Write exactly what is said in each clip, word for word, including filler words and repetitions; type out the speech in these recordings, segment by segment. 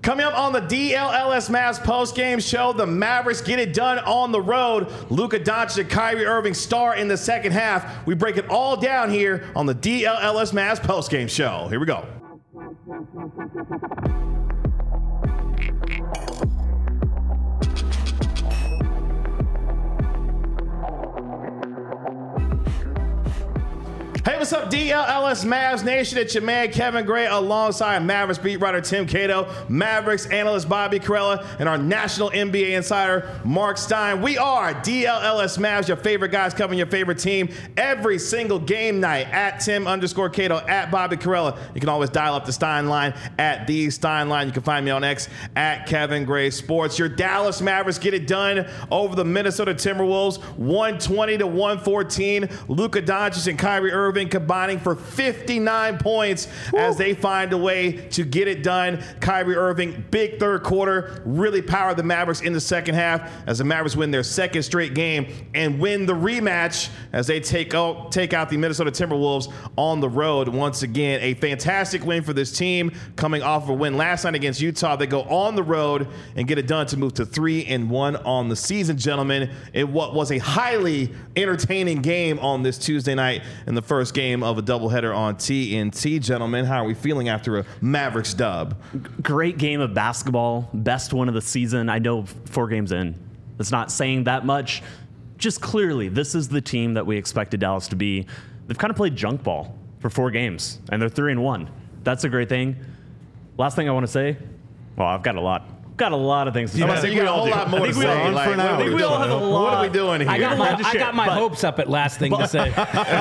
Coming up on the D L L S Mavs postgame show, the Mavericks get it done on the road. Luka Doncic and Kyrie Irving star in the second half. We break it all down here on the D L L S Mavs postgame show. Here we go. Hey, what's up, D L L S Mavs Nation? It's your man, Kevin Gray, alongside Mavericks beat writer Tim Cato, Mavericks analyst Bobby Carella, and our national N B A insider, Mark Stein. We are D L L S Mavs, your favorite guys covering your favorite team every single game night. At Tim underscore Cato, at Bobby Carella. You can always dial up the Stein line at the Stein line. You can find me on X at Kevin Gray Sports. Your Dallas Mavericks get it done over the Minnesota Timberwolves, one twenty to one fourteen. Luka Doncic and Kyrie Irving combining for fifty-nine points Woo. As they find a way to get it done. Kyrie Irving, big third quarter, really powered the Mavericks in the second half as the Mavericks win their second straight game and win the rematch as they take out, take out the Minnesota Timberwolves on the road. Once again, a fantastic win for this team coming off of a win last night against Utah. They go on the road and get it done to move to three and one on the season, gentlemen. It what was a highly entertaining game on this Tuesday night in the first game of a doubleheader on T N T, gentlemen. How are we feeling after a Mavericks dub? Great game of basketball. Best one of the season. I know four games in. It's not saying that much. Just clearly, this is the team that we expected Dallas to be. They've kind of played junk ball for four games, and they're three and one. That's a great thing. Last thing I want to say, well, I've got a lot. Got a lot of things to say. I think we got a whole lot more to say. Like, I think we all have a lot. What are we doing here? I got my, I got my but, hopes up at last thing but, to say.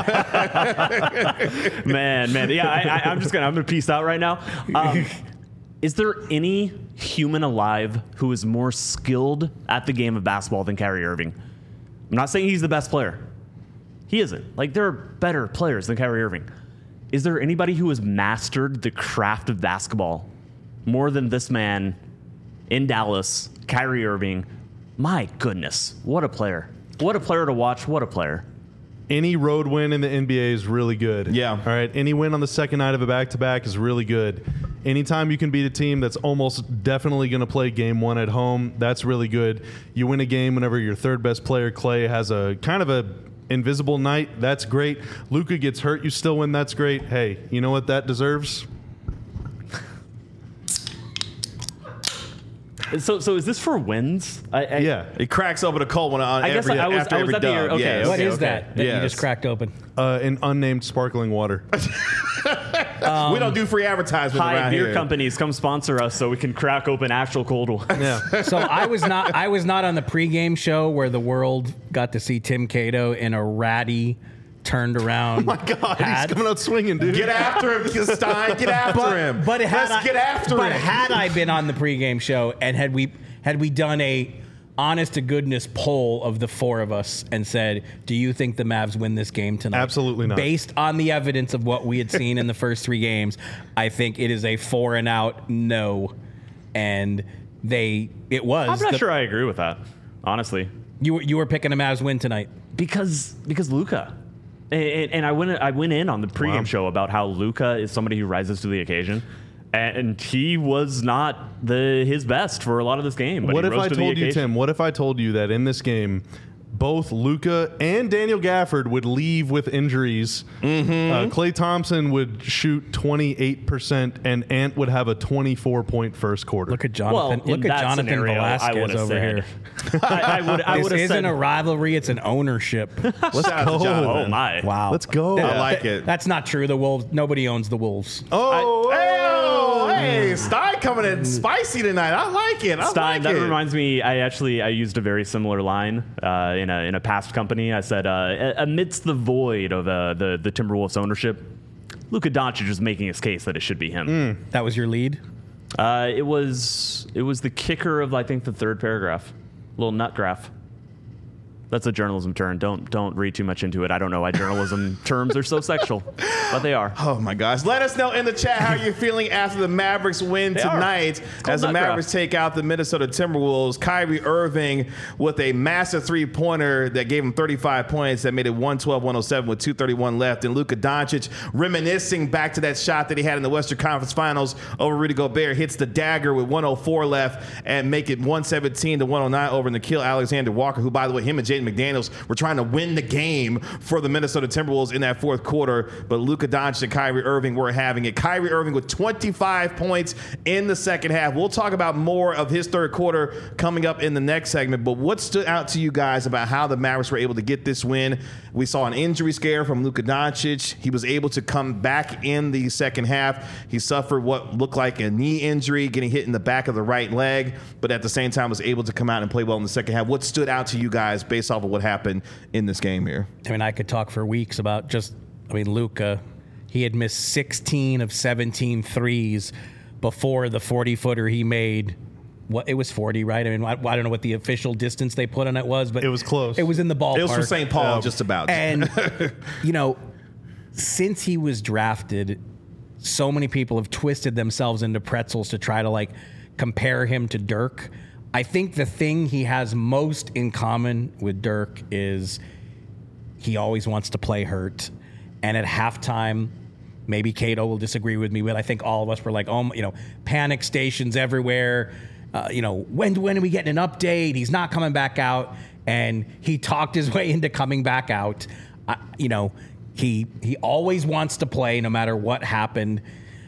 man, man. Yeah, I, I, I'm just going to I'm gonna peace out right now. Um, is there any human alive who is more skilled at the game of basketball than Kyrie Irving? I'm not saying he's the best player. He isn't. Like, there are better players than Kyrie Irving. Is there anybody who has mastered the craft of basketball more than this man in Dallas, Kyrie Irving? My goodness, what a player. What a player to watch. What a player. Any road win in the N B A is really good. Yeah. All right. Any win on the second night of a back-to-back is really good. Anytime you can beat a team that's almost definitely going to play game one at home, that's really good. You win a game whenever your third best player, Clay, has a kind of a invisible night. That's great. Luka gets hurt. You still win. That's great. Hey, you know what that deserves? So, so is this for wins? I, I, yeah. It cracks open a cold one on I guess every, I was, after I was every at the year. dub. Okay, Yes. okay, What is okay. that that Yes. you just cracked open? Uh, an unnamed sparkling water. Um, we don't do free advertisements Hi, around beer here. companies, come sponsor us so we can crack open actual cold ones. Yeah. So I was not I was not on the pregame show where the world got to see Tim Cato in a ratty turned around. Oh my God, hat. he's coming out swinging, dude. Get after him, Stein. Get after But, him. but had Let's I, get after but him. had I been on the pregame show and had we had we done a honest to goodness poll of the four of us and said, do you think the Mavs win this game tonight? Absolutely not. Based on the evidence of what we had seen in the first three games, I think it is a four and out no. And they it was. I'm not the, sure I agree with that, honestly. You were you were picking a Mavs win tonight. Because because Luka. And, and I went I went in on the pregame Wow. show about how Luka is somebody who rises to the occasion. And he was not the his best for a lot of this game. But What he if rose I to the told you, occasion. Tim, what if I told you that in this game, both Luka and Daniel Gafford would leave with injuries? Mm-hmm. Uh, Klay Thompson would shoot twenty-eight percent, and Ant would have a twenty-four point first quarter. Look at Jonathan. Well, in look at that Jonathan scenario, I Velasquez would've over said- here. I, I would I This would have isn't said a rivalry; it's an ownership. Let's Shout out to go. Jonathan. oh my. Wow, Let's go. I like it. That's not true. The Wolves. Nobody owns the Wolves. Oh, Hey, oh, hey, Stein coming in spicy tonight. I like it. I Stein, like that it. reminds me. I actually I used a very similar line uh, in a in a past company. I said, uh, amidst the void of uh, the the Timberwolves ownership, Luka Doncic is making his case that it should be him. That was your lead. Uh, it was it was the kicker of I think the third paragraph, little nut graph. That's a journalism term. Don't don't read too much into it. I don't know why journalism terms are so sexual, but they are. Oh my gosh! Let us know in the chat how you're feeling after the Mavericks win They tonight as the Mavericks take out the Minnesota Timberwolves. Kyrie Irving with a massive three-pointer that gave him thirty-five points that made it one twelve one oh seven with two thirty-one left, and Luka Doncic reminiscing back to that shot that he had in the Western Conference Finals over Rudy Gobert, hits the dagger with one oh four left and make it one seventeen to one oh nine over Nickeil Alexander Walker, who, by the way, him and Jaden McDaniels were trying to win the game for the Minnesota Timberwolves in that fourth quarter, but Luka Doncic and Kyrie Irving were having it. Kyrie Irving with twenty-five points in the second half. We'll talk about more of his third quarter coming up in the next segment, but what stood out to you guys about how the Mavericks were able to get this win? We saw an injury scare from Luka Doncic. He was able to come back in the second half. He suffered what looked like a knee injury, getting hit in the back of the right leg, but at the same time was able to come out and play well in the second half. What stood out to you guys based off of what happened in this game here? I mean, I could talk for weeks about just, I mean, Luka, he had missed sixteen of seventeen threes before the forty-footer he made. What, it was forty, right? I mean, I, I don't know what the official distance they put on it was, but It was close. It was in the ballpark. It was from Saint Paul, Yeah. just about. And, you know, since he was drafted, so many people have twisted themselves into pretzels to try to, like, compare him to Dirk. I think the thing he has most in common with Dirk is he always wants to play hurt. And at halftime, maybe Cato will disagree with me, but I think all of us were like, oh, you know, panic stations everywhere. Uh, you know, when, when are we getting an update? He's not coming back out. And he talked his way into coming back out. Uh, you know, he he always wants to play no matter what happened.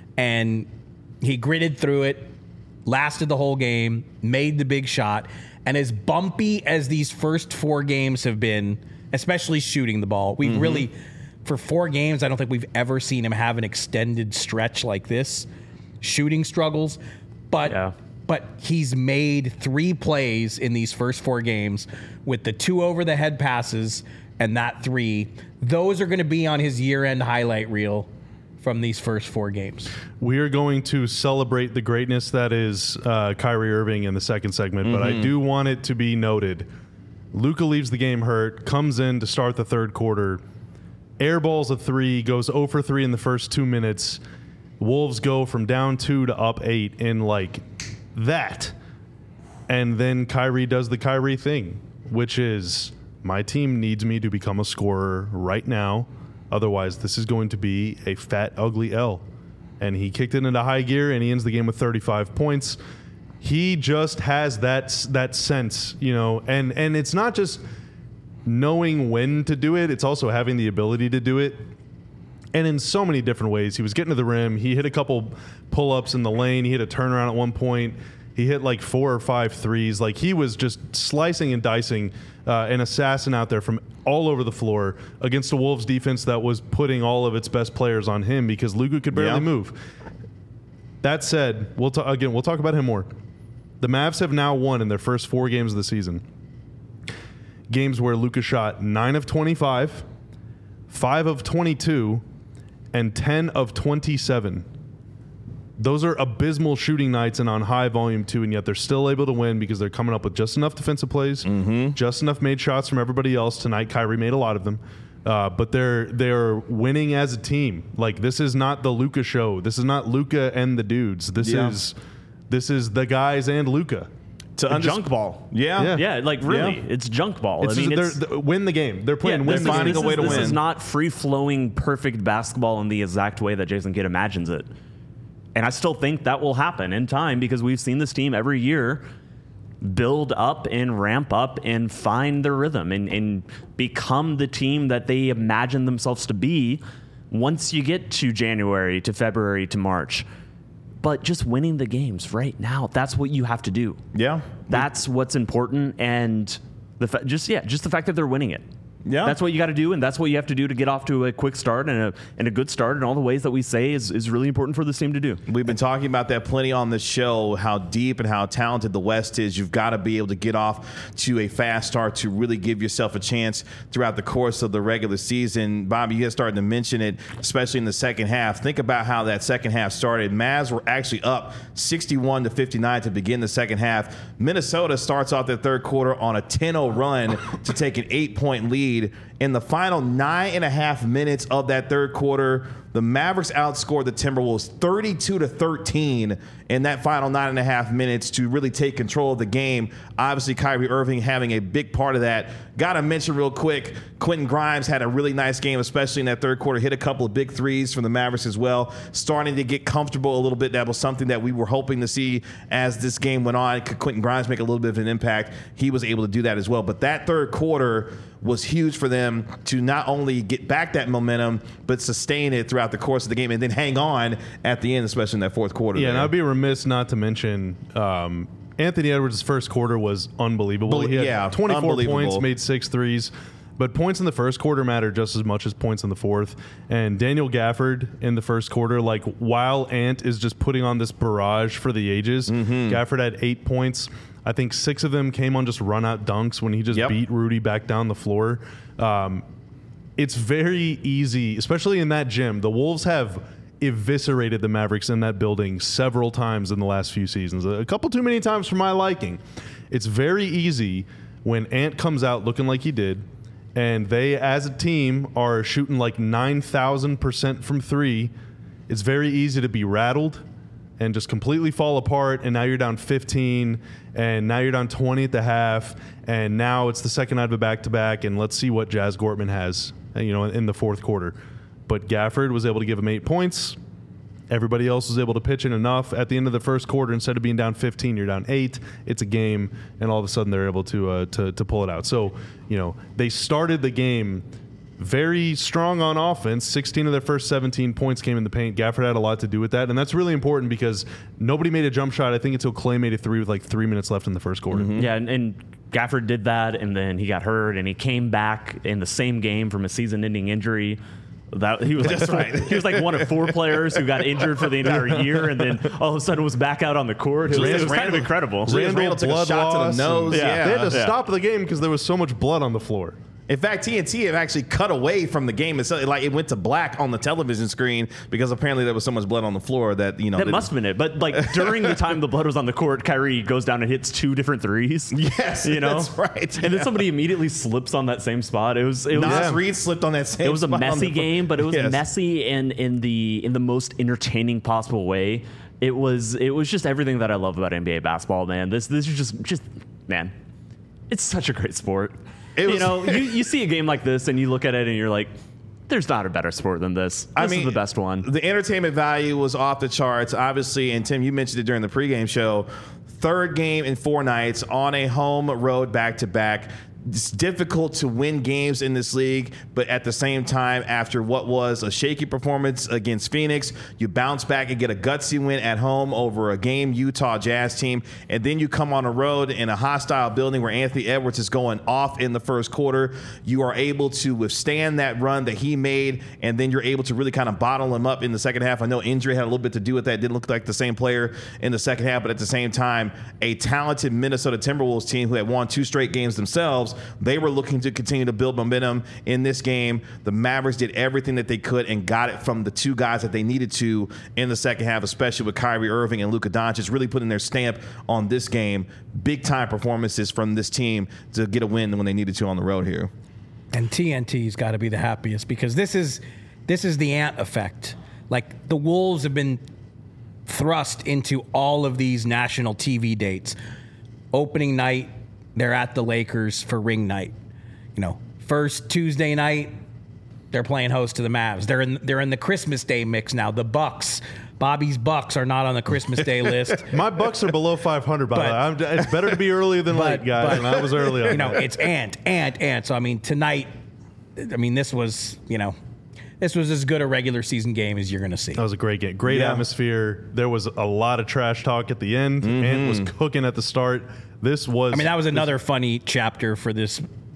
And he gritted through it, lasted the whole game, made the big shot. And as bumpy as these first four games have been, especially shooting the ball, we've mm-hmm. really, for four games, I don't think we've ever seen him have an extended stretch like this. Shooting struggles. But... Yeah. But he's made three plays in these first four games with the two over-the-head passes and that three. Those are going to be on his year-end highlight reel from these first four games. We are going to celebrate the greatness that is uh, Kyrie Irving in the second segment, mm-hmm. but I do want it to be noted. Luka leaves the game hurt, comes in to start the third quarter, airballs a three, goes zero for three in the first two minutes. Wolves go from down two to up eight in like... that. And then Kyrie does the Kyrie thing, which is my team needs me to become a scorer right now. Otherwise, this is going to be a fat, ugly L. And he kicked it into high gear, and he ends the game with thirty-five points. He just has that that sense, you know, and, and it's not just knowing when to do it. It's also having the ability to do it. And in so many different ways. He was getting to the rim. He hit a couple pull-ups in the lane. He hit a turnaround at one point. He hit like four or five threes. Like, he was just slicing and dicing uh, an assassin out there from all over the floor against a Wolves defense that was putting all of its best players on him because Luka could barely yeah. move. That said, we'll ta- again, we'll talk about him more. The Mavs have now won in their first four games of the season. Games where Luka shot nine of twenty-five, five of twenty-two, and ten of twenty-seven. Those are abysmal shooting nights and on high volume too, and yet they're still able to win because they're coming up with just enough defensive plays, mm-hmm. just enough made shots from everybody else. Tonight, Kyrie made a lot of them, uh, but they're they're winning as a team. Like, this is not the Luka show. This is not Luka and the dudes. This yeah. is this is the guys and Luka. To underst- junk ball. Yeah. Yeah. Yeah, like really, Yeah. it's junk ball. It's I mean, just, it's, they're, win the game. They're playing yeah, win this the is- game. finding this a way is- to this win. is not free-flowing, perfect basketball in the exact way that Jason Kidd imagines it. And I still think that will happen in time because we've seen this team every year build up and ramp up and find their rhythm and, and become the team that they imagine themselves to be once you get to January, to February, to March. But just winning the games right now, that's what you have to do. Yeah. That's what's important. And the fa- just, yeah, just the fact that they're winning it. Yeah. That's what you got to do, and that's what you have to do to get off to a quick start and a and a good start in all the ways that we say is, is really important for this team to do. We've been talking about that plenty on this show, how deep and how talented the West is. You've got to be able to get off to a fast start to really give yourself a chance throughout the course of the regular season. Bobby, you had started to mention it, especially in the second half. Think about how that second half started. Mavs were actually up sixty-one to fifty-nine to begin the second half. Minnesota starts off their third quarter on a ten oh run to take an eight-point lead. In the final nine and a half minutes of that third quarter, the Mavericks outscored the Timberwolves thirty-two to thirteen in that final nine and a half minutes to really take control of the game. Obviously, Kyrie Irving having a big part of that. Got to mention real quick, Quentin Grimes had a really nice game, especially in that third quarter. Hit a couple of big threes from the Mavericks as well. Starting to get comfortable a little bit. That was something that we were hoping to see as this game went on. Could Quentin Grimes make a little bit of an impact? He was able to do that as well. But that third quarter was huge for them to not only get back that momentum, but sustain it throughout the course of the game and then hang on at the end, especially in that fourth quarter. Yeah, there. and I'd be remiss not to mention um, Anthony Edwards' first quarter was unbelievable. He had yeah, twenty-four unbelievable. points, made six threes. But points in the first quarter matter just as much as points in the fourth. And Daniel Gafford in the first quarter, like while Ant is just putting on this barrage for the ages, Mm-hmm. Gafford had eight points. I think six of them came on just run-out dunks when he just Yep. beat Rudy back down the floor. Um, it's very easy, especially in that gym. The Wolves have eviscerated the Mavericks in that building several times in the last few seasons. A couple too many times for my liking. It's very easy when Ant comes out looking like he did, and they, as a team, are shooting like nine thousand percent from three. It's very easy to be rattled and just completely fall apart, and now you're down fifteen, and now you're down twenty at the half, and now it's the second night of a back-to-back, and let's see what Jazz Gortman has, you know, in the fourth quarter. But Gafford was able to give him eight points. Everybody else was able to pitch in enough. At the end of the first quarter, instead of being down fifteen, you're down eight. It's a game, and all of a sudden they're able to uh, to to pull it out. So, you know, they started the game very strong on offense. sixteen of their first seventeen points came in the paint. Gafford had a lot to do with that, and that's really important because nobody made a jump shot, I think, until Clay made a three with like three minutes left in the first quarter. Yeah, and, and Gafford did that, and then he got hurt, and he came back in the same game from a season-ending injury. That he was like, That's right. He was like one of four players who got injured for the entire year, and then all of a sudden was back out on the court. It was, it was kind of incredible. Julius Randle took a shot to the loss, nose. and- Yeah. They had to Yeah. stop the game because there was so much blood on the floor. In fact, T N T have actually cut away from the game. It's like it went to black on the television screen because apparently there was so much blood on the floor that, you know. That the- must have been it. But like during the time the blood was on the court, Kyrie goes down and hits two different threes. Yes, you know that's right. And then Yeah. somebody immediately slips on that same spot. It was it was Nas Reed slipped on that same it was a spot on messy the- game, but it was Yes. messy in in the in the most entertaining possible way. It was it was just everything that I love about N B A basketball, man. This this is just just man, it's such a great sport. It you was- know, you, you see a game like this and you look at it and you're like, there's not a better sport than this. This I mean, is the best one. The entertainment value was off the charts, obviously. And Tim, you mentioned it during the pregame show. Third game in four nights on a home road back to back. It's difficult to win games in this league, but at the same time, after what was a shaky performance against Phoenix, you bounce back and get a gutsy win at home over a game Utah Jazz team, and then you come on a road in a hostile building where Anthony Edwards is going off in the first quarter. You are able to withstand that run that he made, and then you're able to really kind of bottle him up in the second half. I know injury had a little bit to do with that. Didn't look like the same player in the second half, but at the same time, a talented Minnesota Timberwolves team who had won two straight games themselves, they were looking to continue to build momentum in this game. The Mavericks did everything that they could and got it from the two guys that they needed to in the second half, especially with Kyrie Irving and Luka Doncic really putting their stamp on this game. Big time performances from this team to get a win when they needed to on the road here. And T N T's got to be the happiest because this is this is the Ant effect. Like the Wolves have been thrust into all of these national T V dates. Opening night, they're at the Lakers for ring night. You know, first Tuesday night, they're playing host to the Mavs. They're in they're in the Christmas Day mix now. The Bucks, Bobby's Bucks are not on the Christmas Day list. My Bucks are below five hundred, by the way. But- I'm- It's better to be earlier than But- late, guys, but- and I was early on You know, that. it's Ant, Ant, Ant. So I mean, tonight, I mean, this was you know, this was as good a regular season game as you're going to see. That was a great game. Great Yeah. atmosphere. There was a lot of trash talk at the end. Ant was cooking at the start. This was. I mean, that was another funny chapter for this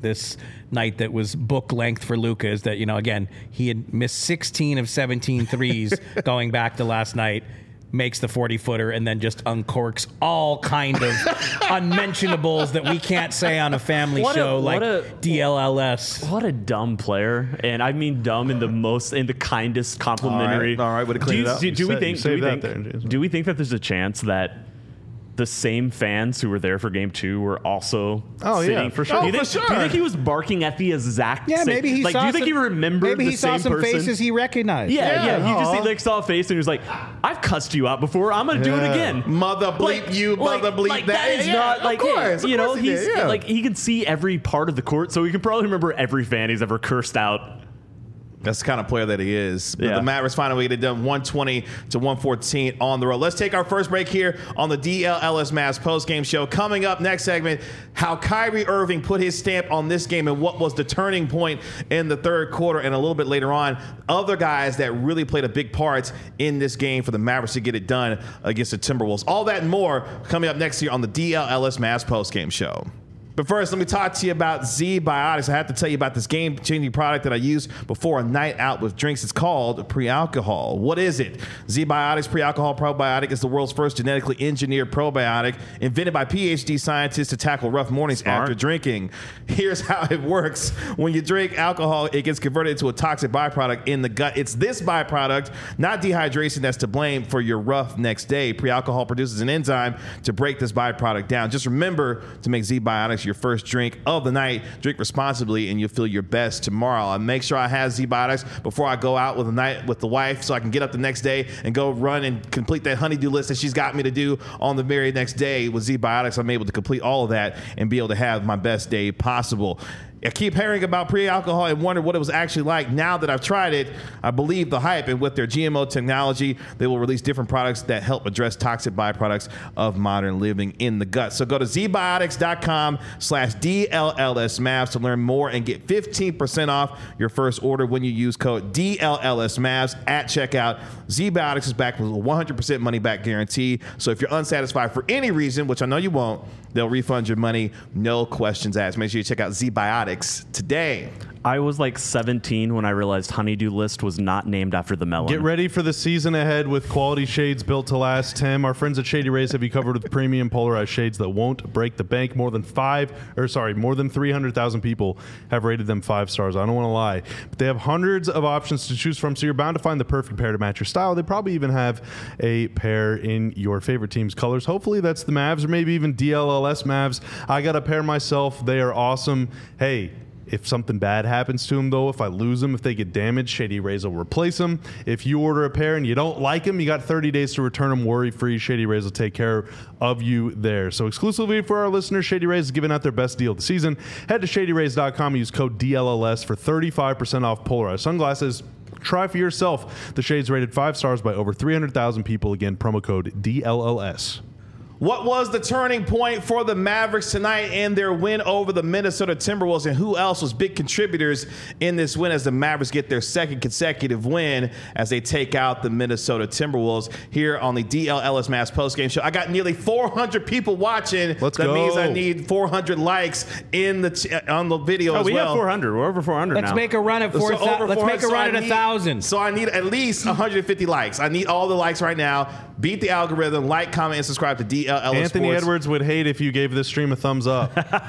this night that was book length for Luka is that, you know, again, he had missed sixteen of seventeen threes going back to last night, makes the forty-footer, and then just uncorks all kind of unmentionables that we can't say on a family What a- show what like a- D L L S. What a dumb player, and I mean dumb in the most, in the kindest complimentary. All right, all right, way to do clean you, it up. do, do You we sa- think? you Do we saved that think, there, Jason. do we think that there's a chance that the same fans who were there for game two were also Oh, yeah, sitting? for sure. Do you, Oh, think, for sure. do you think he was barking at the exact Yeah, same? maybe he like, saw do you think some, he remembered maybe the he saw same some person? faces he recognized. Yeah, yeah. Yeah. He just Aw. he, like saw a face and he was like, "I've cussed you out before. I'm gonna do it Yeah. again." Mother bleep Like- you, like- mother bleep like, that. that is Yeah, not of like course, of you know course he he's did, yeah. like he can see every part of the court, so he can probably remember every fan he's ever cursed out. That's the kind of player that he is. But Yeah. the Mavericks finally get it done one twenty to one fourteen on the road. Let's take our first break here on the D L L S Mavs postgame show. Coming up next segment, how Kyrie Irving put his stamp on this game and what was the turning point in the third quarter. And a little bit later on, other guys that really played a big part in this game for the Mavericks to get it done against the Timberwolves. All that and more coming up next year on the D L L S Mavs postgame show. But first, let me talk to you about Z-Biotics. I have to tell you about this game-changing product that I use before a night out with drinks. It's called pre-alcohol. What is it? Z-Biotics Pre-Alcohol Probiotic is the world's first genetically engineered probiotic invented by P H D scientists to tackle rough mornings Smart. after drinking. Here's how it works. When you drink alcohol, it gets converted into a toxic byproduct in the gut. It's this byproduct, not dehydration, that's to blame for your rough next day. Pre-alcohol produces an enzyme to break this byproduct down. Just remember to make Z-Biotics your first drink of the night. Drink responsibly and you'll feel your best tomorrow. I make sure I have Z-Biotics before I go out with a night with the wife so I can get up the next day and go run and complete that honeydew list that she's got me to do on the very next day. With Z-Biotics, I'm able to complete all of that and be able to have my best day possible. I keep hearing about pre-alcohol and wonder what it was actually like. Now that I've tried it, I believe the hype. And with their G M O technology, they will release different products that help address toxic byproducts of modern living in the gut. So go to zbiotics.com slash DLLSMavs to learn more and get fifteen percent off your first order when you use code DLLSMavs at checkout. Z-Biotics is back with a one hundred percent money back guarantee. So if you're unsatisfied for any reason, which I know you won't, they'll refund your money, no questions asked. Make sure you check out Z-Biotics today. I was like seventeen when I realized Honeydew List was not named after the melon. Get ready for the season ahead with quality shades built to last. Tim, our friends at Shady Rays have you covered with premium polarized shades that won't break the bank. More than five, or sorry, more than three hundred thousand people have rated them five stars. I don't want to lie, but they have hundreds of options to choose from, so you're bound to find the perfect pair to match your style. They probably even have a pair in your favorite team's colors. Hopefully that's the Mavs or maybe even D L L S Mavs. I got a pair myself. They are awesome. Hey, if something bad happens to them, though, if I lose them, if they get damaged, Shady Rays will replace them. If you order a pair and you don't like them, you got thirty days to return them worry-free. Shady Rays will take care of you there. So exclusively for our listeners, Shady Rays is giving out their best deal of the season. Head to shady rays dot com and use code D L L S for thirty-five percent off polarized sunglasses. Try for yourself. The shades rated five stars by over three hundred thousand people. Again, promo code D L L S. What was the turning point for the Mavericks tonight in their win over the Minnesota Timberwolves, and who else was big contributors in this win as the Mavericks get their second consecutive win as they take out the Minnesota Timberwolves here on the D L L S Mavs postgame show? I got nearly four hundred people watching. Let's that go. means I need four hundred likes in the t- on the video Oh, as we well. have four hundred. We're over four hundred Let's now. make a run at four. So thou- over let's four make a hundred, run so I at a need- thousand. So I need at least one hundred fifty likes. I need all the likes right now. Beat the algorithm. Like, comment, and subscribe to D L L S Anthony Sports. Edwards would hate if you gave this stream a thumbs up.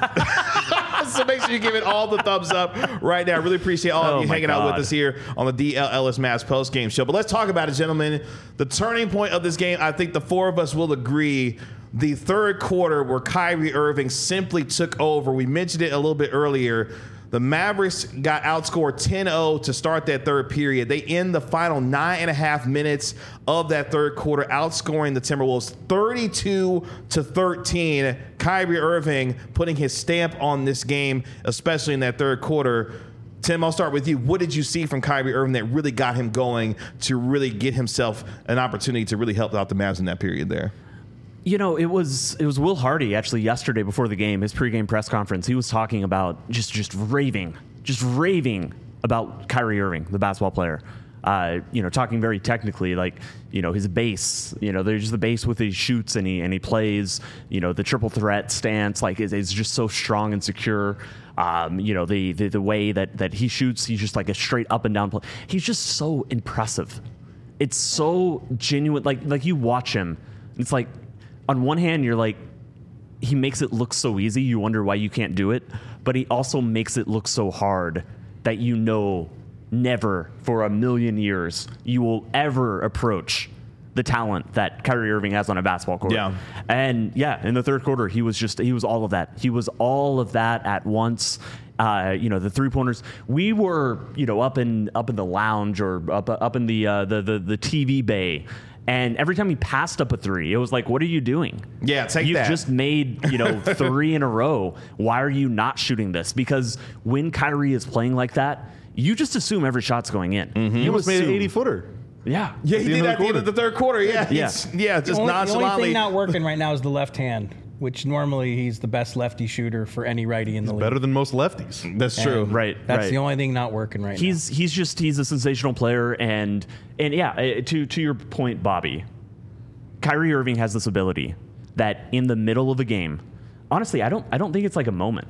So make sure you give it all the thumbs up right now. Really appreciate all Oh of you my hanging out with God. us here on the D L L S Mavs post game show. But let's talk about it, gentlemen. The turning point of this game, I think the four of us will agree, the third quarter where Kyrie Irving simply took over. We mentioned it a little bit earlier. The Mavericks got outscored ten oh to start that third period. They end the final nine and a half minutes of that third quarter, outscoring the Timberwolves thirty-two to thirteen. Kyrie Irving putting his stamp on this game, especially in that third quarter. Tim, I'll start with you. What did you see from Kyrie Irving that really got him going to really get himself an opportunity to really help out the Mavs in that period there? You know, it was it was Will Hardy actually yesterday before the game, his pregame press conference. He was talking about just just raving, just raving about Kyrie Irving, the basketball player. Uh, you know, talking very technically, like, you know, his base, you know, there's the base with his shoots and he and he plays, you know, the triple threat stance, like, is, is just so strong and secure. Um, you know, the, the the way that that he shoots, he's just like a straight up and down play. He's just so impressive. It's so genuine. Like like you watch him, it's like, on one hand, you're like, he makes it look so easy. You wonder why you can't do it, but he also makes it look so hard that you know. Never for a million years you will ever approach the talent that Kyrie Irving has on a basketball court. Yeah. And yeah, in the third quarter, he was just, he was all of that. He was all of that at once. Uh, you know, the three pointers, we were, you know, up in, up in the lounge or up, up in the, uh, the, the, the T V bay. And every time he passed up a three, it was like, what are you doing? Yeah, take You've that. just made, you know, three in a row. Why are you not shooting this? Because when Kyrie is playing like that, you just assume every shot's going in. Mm-hmm. He almost made an assume- eighty footer. Yeah. Yeah, he the did end of at the the end of the third quarter. Yeah, Yeah. He's- yeah, just The only, the only nonchalantly. thing not working right now is the left hand, which normally he's the best lefty shooter for any righty in the league. Better than most lefties. That's true. And Right. That's right. the only thing not working right He's he's just he's a sensational player, and and yeah, uh, to to your point, Bobby, Kyrie Irving has this ability that in the middle of a game, honestly, I don't I don't think it's like a moment.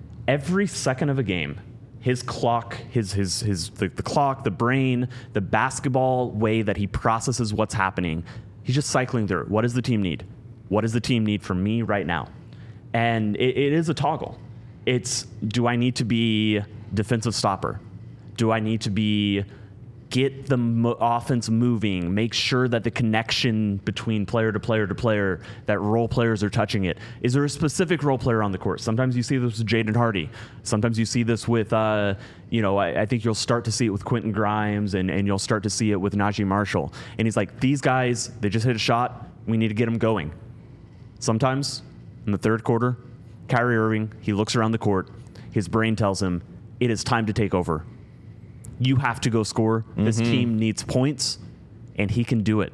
Every second of a game, his clock, his his his the, the clock, the brain, the basketball way that he processes what's happening, he's just cycling through. What does the team need? What does the team need from me right now? And it, it is a toggle. It's, do I need to be defensive stopper? Do I need to be get the mo- offense moving, make sure that the connection between player to player to player, that role players are touching it? Is there a specific role player on the court? Sometimes you see this with Jaden Hardy. Sometimes you see this with, uh, you know, I, I think you'll start to see it with Quentin Grimes, and, and you'll start to see it with Najee Marshall. And he's like, these guys, they just hit a shot. We need to get them going. Sometimes in the third quarter, Kyrie Irving, he looks around the court. His brain tells him, it is time to take over. You have to go score. This team needs points, and he can do it.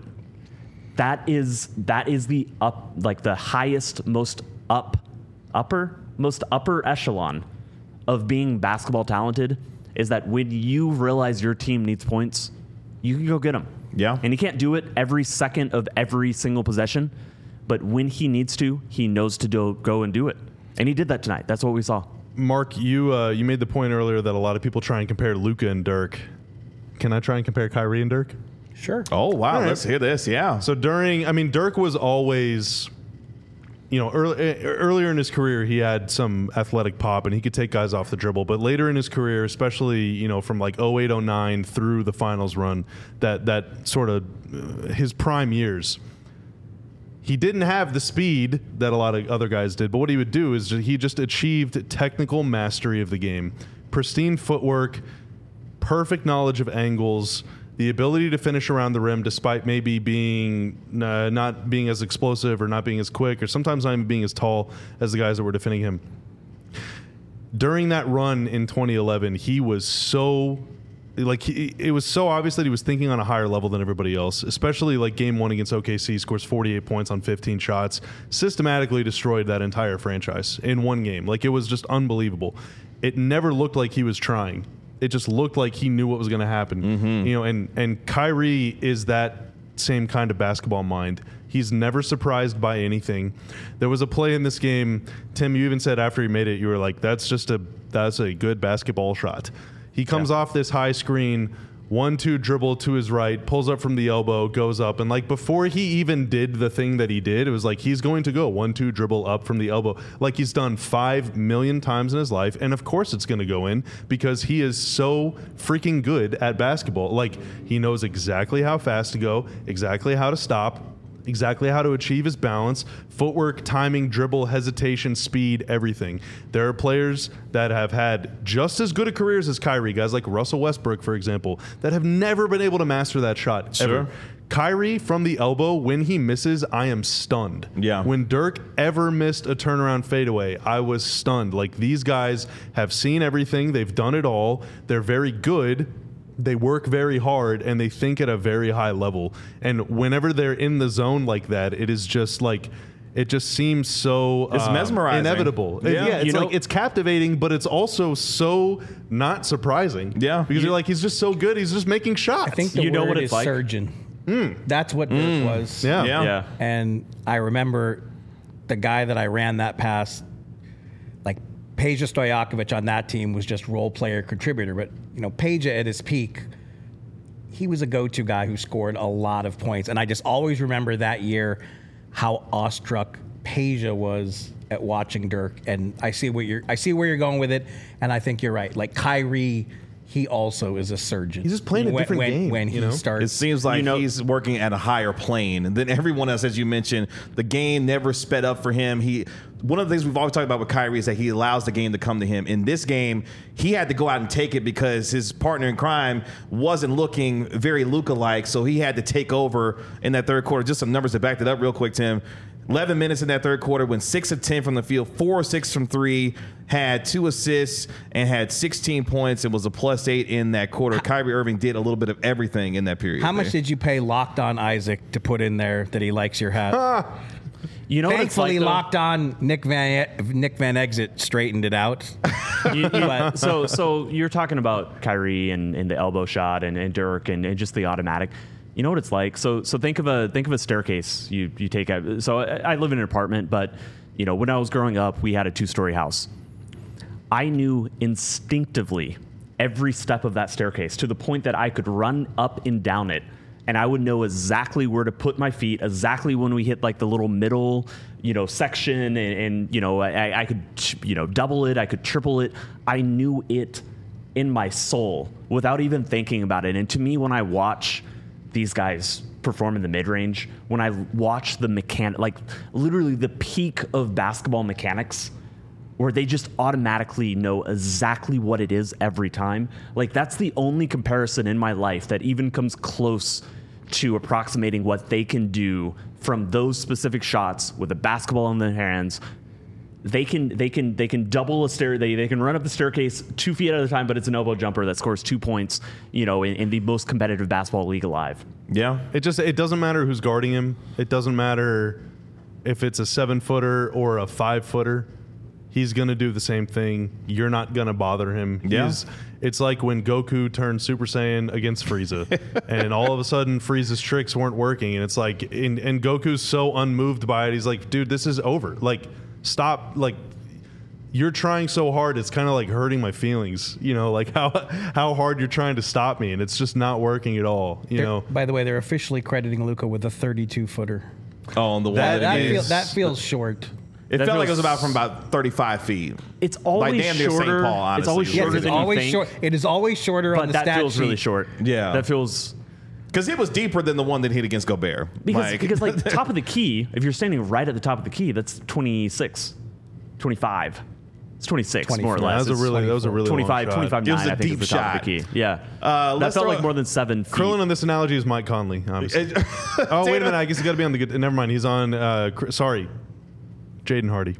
That is that is the up, like the highest, most up, upper, most upper echelon of being basketball talented, is that when you realize your team needs points, you can go get them. Yeah. And he can't do it every second of every single possession, but when he needs to, he knows to do, go and do it. And he did that tonight. That's what we saw. Mark, you uh, you made the point earlier that a lot of people try and compare Luka and Dirk. Can I try and compare Kyrie and Dirk? now. Sure. Oh wow, All right. let's hear this. Yeah. So during, I mean, Dirk was always, you know, early, earlier in his career, he had some athletic pop and he could take guys off the dribble. But later in his career, especially, you know, from like oh eight oh nine through the finals run, that that sort of uh, his prime years, he didn't have the speed that a lot of other guys did. But what he would do is he just achieved technical mastery of the game, pristine footwork, perfect knowledge of angles, the ability to finish around the rim despite maybe being uh, not being as explosive or not being as quick or sometimes not even being as tall as the guys that were defending him. During that run in twenty eleven, he was so like he, it was so obvious that he was thinking on a higher level than everybody else, especially like game one against O K C, scores forty-eight points on fifteen shots, systematically destroyed that entire franchise in one game. Like, it was just unbelievable. It never looked like he was trying. It just looked like he knew what was going to happen. Mm-hmm. You know, and and Kyrie is that same kind of basketball mind. He's never surprised by anything. There was a play in this game, Tim, you even said after he made it, you were like, that's just a that's a good basketball shot. He comes yeah. off this high screen, one, two dribble to his right, pulls up from the elbow, goes up. And like before he even did the thing that he did, it was like he's going to go one, two dribble up from the elbow like he's done five million times in his life. And of course it's going to go in because he is so freaking good at basketball. Like, he knows exactly how fast to go, exactly how to stop, exactly how to achieve his balance, footwork, timing, dribble, hesitation, speed, everything. There are players that have had just as good a careers as Kyrie, guys like Russell Westbrook, for example, that have never been able to master that shot Sure. ever. Kyrie from the elbow, when he misses, I am stunned. Yeah. When Dirk ever missed a turnaround fadeaway, I was stunned. Like, these guys have seen everything. They've done it all. They're very good. They work very hard and they think at a very high level. And whenever they're in the zone like that, it is just like, it just seems so It's um, mesmerizing. inevitable. Yeah. Yeah, it's You know- like it's captivating, but it's also so not surprising. Yeah. because You- you're like he's just so good. He's just making shots. I think the You know word what it's is like? surgeon. That's what Dirk was. yeah. Yeah. Yeah. And I remember the guy that I ran that past, like Peja Stojakovic on that team was just role player contributor. But, you know, Peja at his peak, he was a go-to guy who scored a lot of points. And I just always remember that year how awestruck Peja was at watching Dirk. And I see what you're I see where you're going with it, and I think you're right. Like Kyrie, he also is a surgeon. He's just playing a when, different when, game, when he you know? starts. It seems like You know- he's working at a higher plane than everyone else, as you mentioned. The game never sped up for him. He one of the things we've always talked about with Kyrie is that he allows the game to come to him. In this game, he had to go out and take it because his partner in crime wasn't looking very Luka-like, so he had to take over in that third quarter. Just some numbers to back that up real quick, Tim. eleven minutes in that third quarter, went six of ten from the field, four or six from three, had two assists, and had sixteen points. It was a plus eight in that quarter. Kyrie Irving did a little bit of everything in that period. How much there. did you pay Locked On Isaac to put in there that he likes your hat? You know what it's Thankfully, like, though? Locked On Nick Van Nick Van Exit straightened it out. You- you- so so you're talking about Kyrie and, and the elbow shot and, and Dirk and, and just the automatic. You know what it's like. So so think of a think of a staircase you you take out. So I, I live in an apartment, but you know when I was growing up, we had a two story house. I knew instinctively every step of that staircase to the point that I could run up and down it. And I would know exactly where to put my feet, exactly when we hit like the little middle, you know, section, and, and you know, I, I could, you know, double it, I could triple it. I knew it in my soul without even thinking about it. And to me, when I watch these guys perform in the mid range, when I watch the mechanic, like literally the peak of basketball mechanics, where they just automatically know exactly what it is every time. Like that's the only comparison in my life that even comes close to approximating what they can do from those specific shots with a basketball in their hands. They can they can they can double a stair. They they can run up the staircase two feet at a time, but it's an elbow jumper that scores two points. You know, in, in the most competitive basketball league alive. Yeah. It just it doesn't matter who's guarding him. It doesn't matter if it's a seven footer or a five footer. He's gonna do the same thing. You're not gonna bother him. Yeah. He's, it's like when Goku turned Super Saiyan against Frieza, and all of a sudden Frieza's tricks weren't working, and it's like, and, and Goku's so unmoved by it. He's like, dude, this is over. Like, stop. Like, you're trying so hard. It's kind of like hurting my feelings. You know, like how how hard you're trying to stop me, and it's just not working at all. You They're- know. By the way, they're officially crediting Luka with a thirty-two footer. Oh, on the one That, that, that, it feel, is. that feels short. It that felt like it feels- was about from about thirty-five feet. It's always damn near Saint shorter. Paul, honestly. It's always Yes, Yes, shorter it's than always you think. short. It is always shorter on But the that stat feels sheet. really short. Yeah. that feels. Because it was deeper than the one that hit against Gobert. Because, Like- because like top of the key, if you're standing right at the top of the key, that's twenty-six, twenty-five. It's twenty-six, more or twenty-four. less. That was a It's really that was a really long twenty-five, shot. twenty-five, It was nine, a I think deep is the top of the shot. key. Yeah. Uh, that let's felt throw like a- more than seven feet. Krillin on this analogy is Mike Conley, obviously. oh, wait a minute. I guess he's got to be on the good. Never mind. He's on. Uh, Cr- sorry, Jaden Hardy.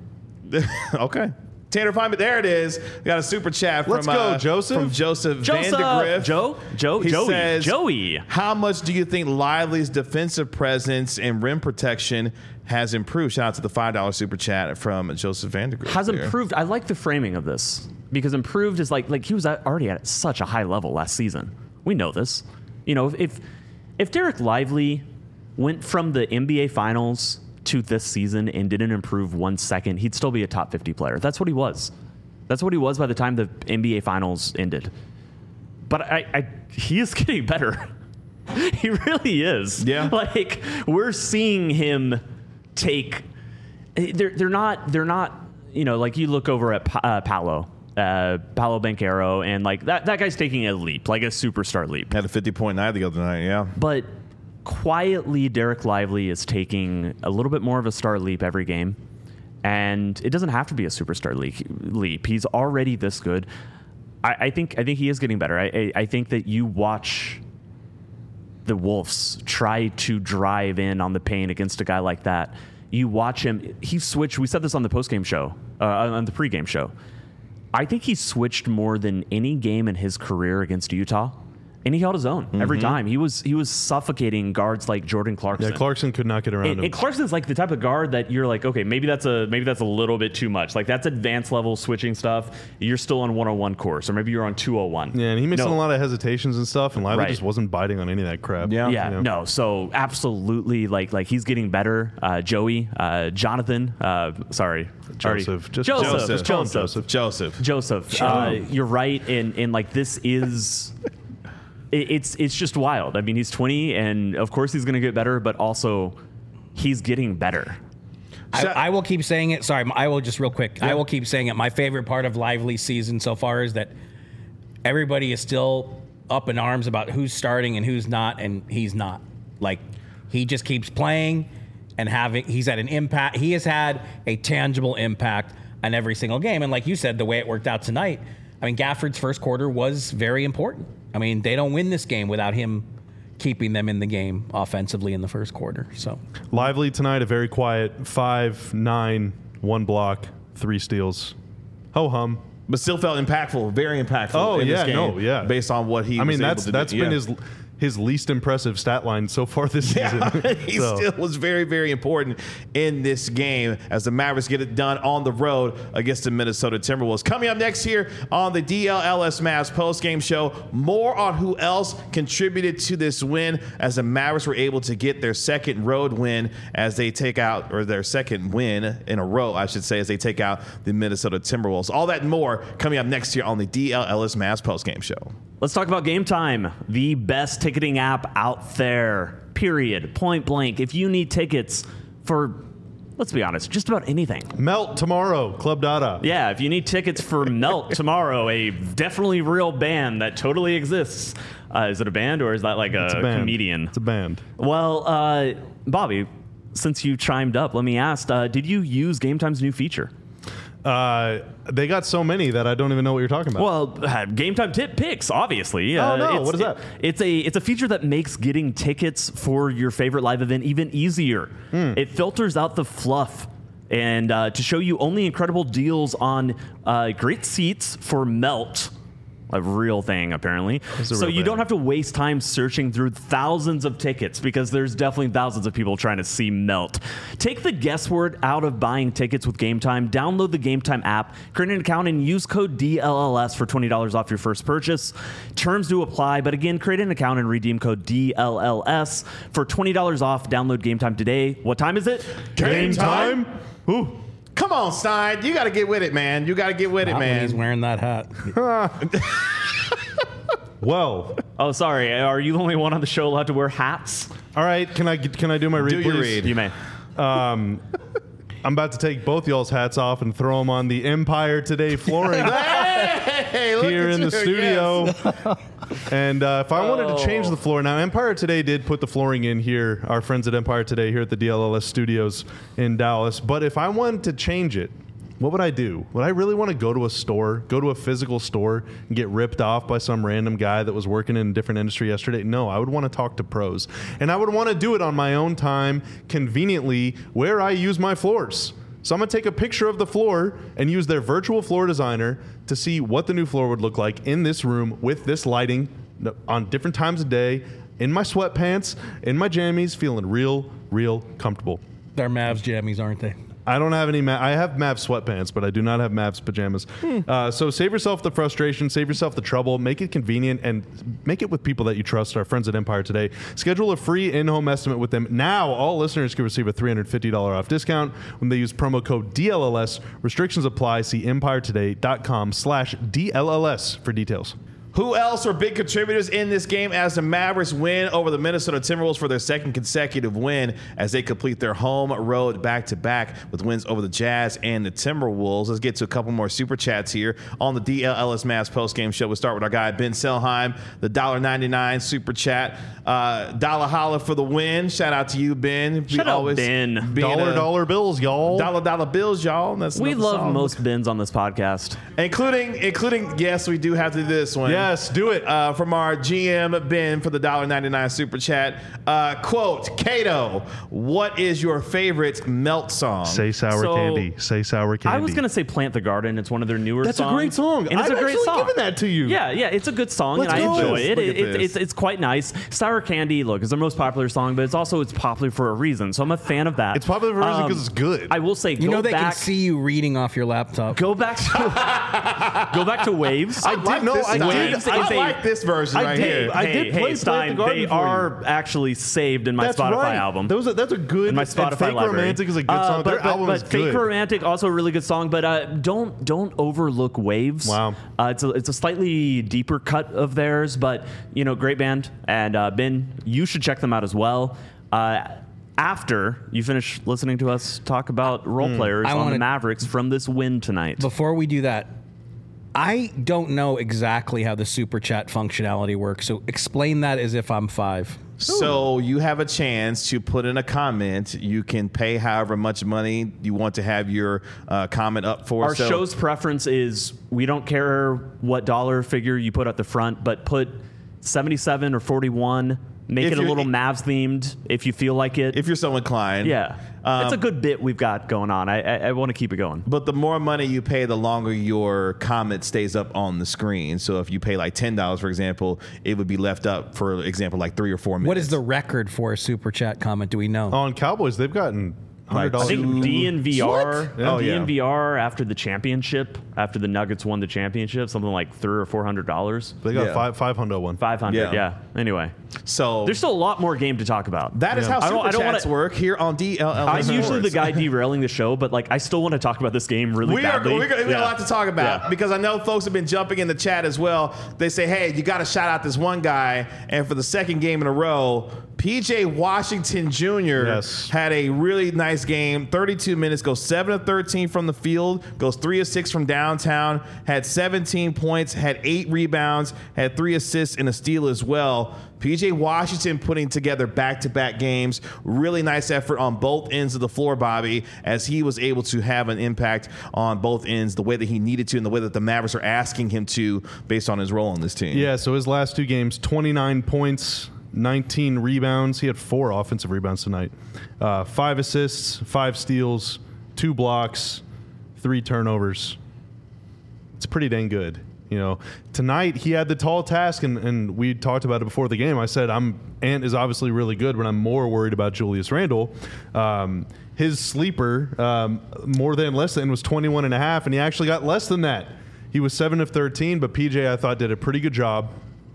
Okay. Tanner Feynman, there it is. We got a super chat from Let's go, uh, Joseph. From Joseph, Joseph! Vandegrift. Joe? Joe? He Joey. says, Joey. How much do you think Lively's defensive presence and rim protection has improved? Shout out to the five dollar super chat from Joseph Vandegrift. Has there. improved. I like the framing of this because improved is like like he was at, already at such a high level last season. We know this. You know, if if Derek Lively went from the N B A Finals to this season and didn't improve one second, he'd still be a top fifty player. That's what he was. That's what he was by the time the N B A Finals ended. But I, I he is getting better. He really is. Yeah. Like we're seeing him take. They're they're not they're not you know like you look over at pa- uh, Paolo. Uh, Paolo Banchero, and like that, that guy's taking a leap, like a superstar leap. Had a fifty point night the other night, yeah. But quietly, Derek Lively is taking a little bit more of a star leap every game. And it doesn't have to be a superstar le- leap. He's already this good. I, I think I think he is getting better. I, I, I think that you watch the Wolves try to drive in on the paint against a guy like that. You watch him. He switched. We said this on the postgame show, uh, on the pregame show. I think he switched more than any game in his career against Utah. And he held his own every time. He was he was suffocating guards like Jordan Clarkson. Yeah, Clarkson could not get around and, him. and Clarkson's like the type of guard that you're like, okay, maybe that's a maybe that's a little bit too much. Like that's advanced level switching stuff. You're still on one oh one course, or maybe you're on two oh one. Yeah, and he made No. a lot of hesitations and stuff, and Lively Right. just wasn't biting on any of that crap. Yeah. Yeah, you know? no. So absolutely, like like he's getting better. Uh, Joey, uh, Jonathan, uh, sorry, already- Joseph. Just Joseph, Joseph. Just call him Joseph, Joseph. Joseph. Joseph. Uh, you're right, and and like this is. it- It's it's just wild. I mean, he's twenty, and of course he's going to get better, but also he's getting better. I, I will keep saying it. Sorry, I will just real quick. I will keep saying it. My favorite part of Lively's season so far is that everybody is still up in arms about who's starting and who's not, and he's not. Like, he just keeps playing and having, he's had an impact. He has had a tangible impact on every single game. And like you said, the way it worked out tonight, I mean, Gafford's first quarter was very important. I mean, they don't win this game without him keeping them in the game offensively in the first quarter. So Lively tonight, a very quiet five, nine, one block, three steals. Ho hum. But still felt impactful, very impactful. Oh, in yeah, this game no, yeah. Based on what he I was mean, able that's to that's do. been Yeah. his his least impressive stat line so far this season. Yeah, he So, still was very, very important in this game as the Mavericks get it done on the road against the Minnesota Timberwolves. Coming up next here on the D L L S Mavs post-game show, more on who else contributed to this win as the Mavericks were able to get their second road win as they take out, or their second win in a row, I should say, as they take out the Minnesota Timberwolves. All that and more coming up next year on the D L L S Mavs post-game show. Let's talk about Game Time, the best ticketing app out there, period, point blank. If you need tickets for, let's be honest, just about anything. Melt tomorrow, Club Dada. Yeah, if you need tickets for Melt tomorrow, a definitely real band that totally exists. Uh, is it a band or is that like a, It's a band. comedian? It's a band. Well, uh, Bobby, since you chimed up, let me ask, uh, did you use Game Time's new feature? Uh, they got so many that I don't even know what you're talking about. Well, uh, Game Time Tip Picks, obviously. Oh, Uh, no. it's- What is that? It's a it's a feature that makes getting tickets for your favorite live event even easier. Hmm. It filters out the fluff and uh, to show you only incredible deals on uh, great seats for Melt. A real thing, apparently. It's a So real you thing. don't have to waste time searching through thousands of tickets because there's definitely thousands of people trying to see Melt. Take the guesswork out of buying tickets with Game Time. Download the Game Time app, create an account, and use code D L L S for twenty dollars off your first purchase. Terms do apply, but again, create an account and redeem code D L L S for twenty dollars off. Download Game Time today. What time is it? Game time? Ooh. Come on, Stein. You got to get with it, man. You got to get with it, not when he's man. wearing that hat. Well, Oh, sorry. Are you the only one on the show allowed to wear hats? all right. Can I can I do my read? Do your please? read. You may. I'm about to take both y'all's hats off and throw them on the Empire Today flooring Hey, look here at in the you. studio. Yes. And uh, if I wanted to change Oh. the floor, now Empire Today did put the flooring in here, our friends at Empire Today here at the D L L S studios in Dallas. But if I wanted to change it, what would I do? Would I really want to go to a store, go to a physical store and get ripped off by some random guy that was working in a different industry yesterday? No, I would want to talk to pros. And I would want to do it on my own time, conveniently, where I use my floors. So I'm going to take a picture of the floor and use their virtual floor designer to see what the new floor would look like in this room with this lighting on different times of day, in my sweatpants, in my jammies, feeling real, real comfortable. They're Mavs jammies, aren't they? I don't have any. Ma- I have Mavs sweatpants, but I do not have Mavs pajamas. Uh, so save yourself the frustration, save yourself the trouble, make it convenient, and make it with people that you trust. Our friends at Empire Today. Schedule a free in-home estimate with them now. All listeners can receive a three hundred fifty dollars off discount when they use promo code D L L S. Restrictions apply. See empire today dot com slash D L L S for details. Who else were big contributors in this game as the Mavericks win over the Minnesota Timberwolves for their second consecutive win as they complete their home road back-to-back with wins over the Jazz and the Timberwolves? Let's get to a couple more super chats here on the D L L S Mavs postgame show. We'll start with our guy Ben Selheim, the one dollar ninety-nine super chat. Uh, Dollar holla for the win. Shout out to you, Ben. Shout out, Ben. being Dollar a- dollar bills, y'all. Dollar dollar bills, y'all. That's We another love song. most bins on this podcast. including including yes, we do have to do this one. Yeah, Yes, do it. Uh, from our G M, Ben, for the one dollar ninety-nine super chat. Uh, quote, Cato, what is your favorite melt song? Say sour So, candy. Say sour candy. I was gonna say "Plant the Garden." It's one of their newer That's songs. a great song. and it's I've a great actually song. given that to you. Yeah, yeah, it's a good song, Let's and I go. enjoy it. Look It, at it this. it's it's quite nice. Sour Candy, look, is their most popular song, but it's also it's popular for a reason. So I'm a fan of that. It's popular for a reason Um, 'cause it's good. I will say, You go know they back, can see you reading off your laptop. Go back to go back to Waves. I did know. this I one. did. Waves I is a- like this version I right did. here. I hey, did hey, play Stein, Plant the Garden they for you. are actually saved in my That's Spotify right. album. Those are, that's a good. in my and Spotify Fake library. Romantic is a good Uh, song. But, Their but, album but is Fake good. Romantic, also a really good song. But uh, don't don't overlook Waves. Wow. Uh, it's a it's a slightly deeper cut of theirs, but you know, great band. And uh, Ben, you should check them out as well. Uh, after you finish listening to us talk about role players I on the wanna- Mavericks from this win tonight. Before we do that, I don't know exactly how the super chat functionality works. So explain that as if I'm five. So you have a chance to put in a comment. You can pay however much money you want to have your uh, comment up for. Our So- show's preference is we don't care what dollar figure you put at the front, but put seventy-seven or forty-one. Make If it a you're- little Mavs themed if you feel like it. if you're so inclined. yeah, Um, it's a good bit we've got going on. I I, I want to keep it going. But the more money you pay, the longer your comment stays up on the screen. So if you pay like ten dollars, for example, it would be left up, for example, like three or four minutes. What is the record for a super chat comment? Do we know? On Cowboys, they've gotten hundred I dollars. think D N V R, What? Oh, D N V R yeah. after the championship, after the Nuggets won the championship, something like three or four hundred dollars. They got Yeah. five five hundred one. Five hundred, Yeah. yeah. Anyway, So there's still a lot more game to talk about. that is Yeah. how I don't- super I don't chats wanna- work here on D L L. I'm usually the Sports. guy derailing the show, but like I still want to talk about this game really We are, badly. we got, we got Yeah. a lot to talk about Yeah. because I know folks have been jumping in the chat as well. They say, hey, you got to shout out this one guy. And for the second game in a row, P J Washington Junior Yes. had a really nice game. thirty-two minutes, goes seven of thirteen from the field, goes three of six from downtown, had seventeen points, had eight rebounds, had three assists and a steal as well. P J Washington putting together back-to-back games. Really nice effort on both ends of the floor, Bobby, as he was able to have an impact on both ends the way that he needed to and the way that the Mavericks are asking him to based on his role on this team. Yeah, so his last two games, twenty-nine points, nineteen rebounds. He had four offensive rebounds tonight. Uh, five assists, five steals, two blocks, three turnovers. It's pretty dang good. You know, tonight he had the tall task, and, and we talked about it before the game. I said, I'm Ant is obviously really good, but I'm more worried about Julius Randle. Um, his sleeper, um, more than less than, was twenty-one and a half, and he actually got less than that. He was seven of thirteen, but P J, I thought, did a pretty good job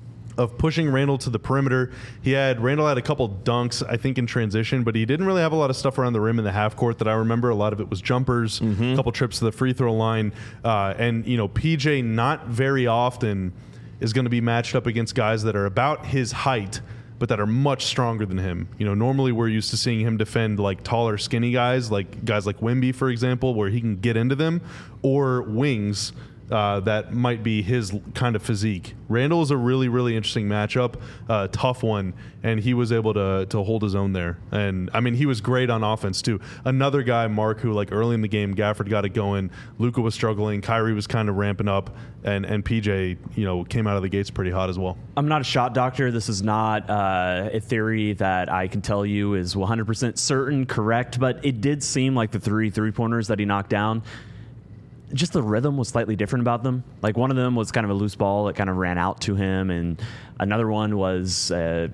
of pushing Randall to the perimeter. He had Randall had a couple dunks, I think, in transition, but he didn't really have a lot of stuff around the rim in the half court that I remember. A lot of it was jumpers, a couple trips to the free throw line, uh, and you know, P J not very often is going to be matched up against guys that are about his height, but that are much stronger than him. You know, normally we're used to seeing him defend like taller, skinny guys, like guys like Wemby, for example, where he can get into them, or wings. Uh, that might be his kind of physique. Randall is a really, really interesting matchup, uh, tough one, and he was able to to hold his own there. And I mean, he was great on offense too. Another guy, Mark, who like early in the game, Gafford got it going. Luka was struggling. Kyrie was kind of ramping up, and and P J, you know, came out of the gates pretty hot as well. I'm not a shot doctor. This is not uh, a theory that I can tell you is one hundred percent certain, correct, but it did seem like the three three-pointers that he knocked down, just the rhythm was slightly different about them. Like one of them was kind of a loose ball that kind of ran out to him, and another one was uh,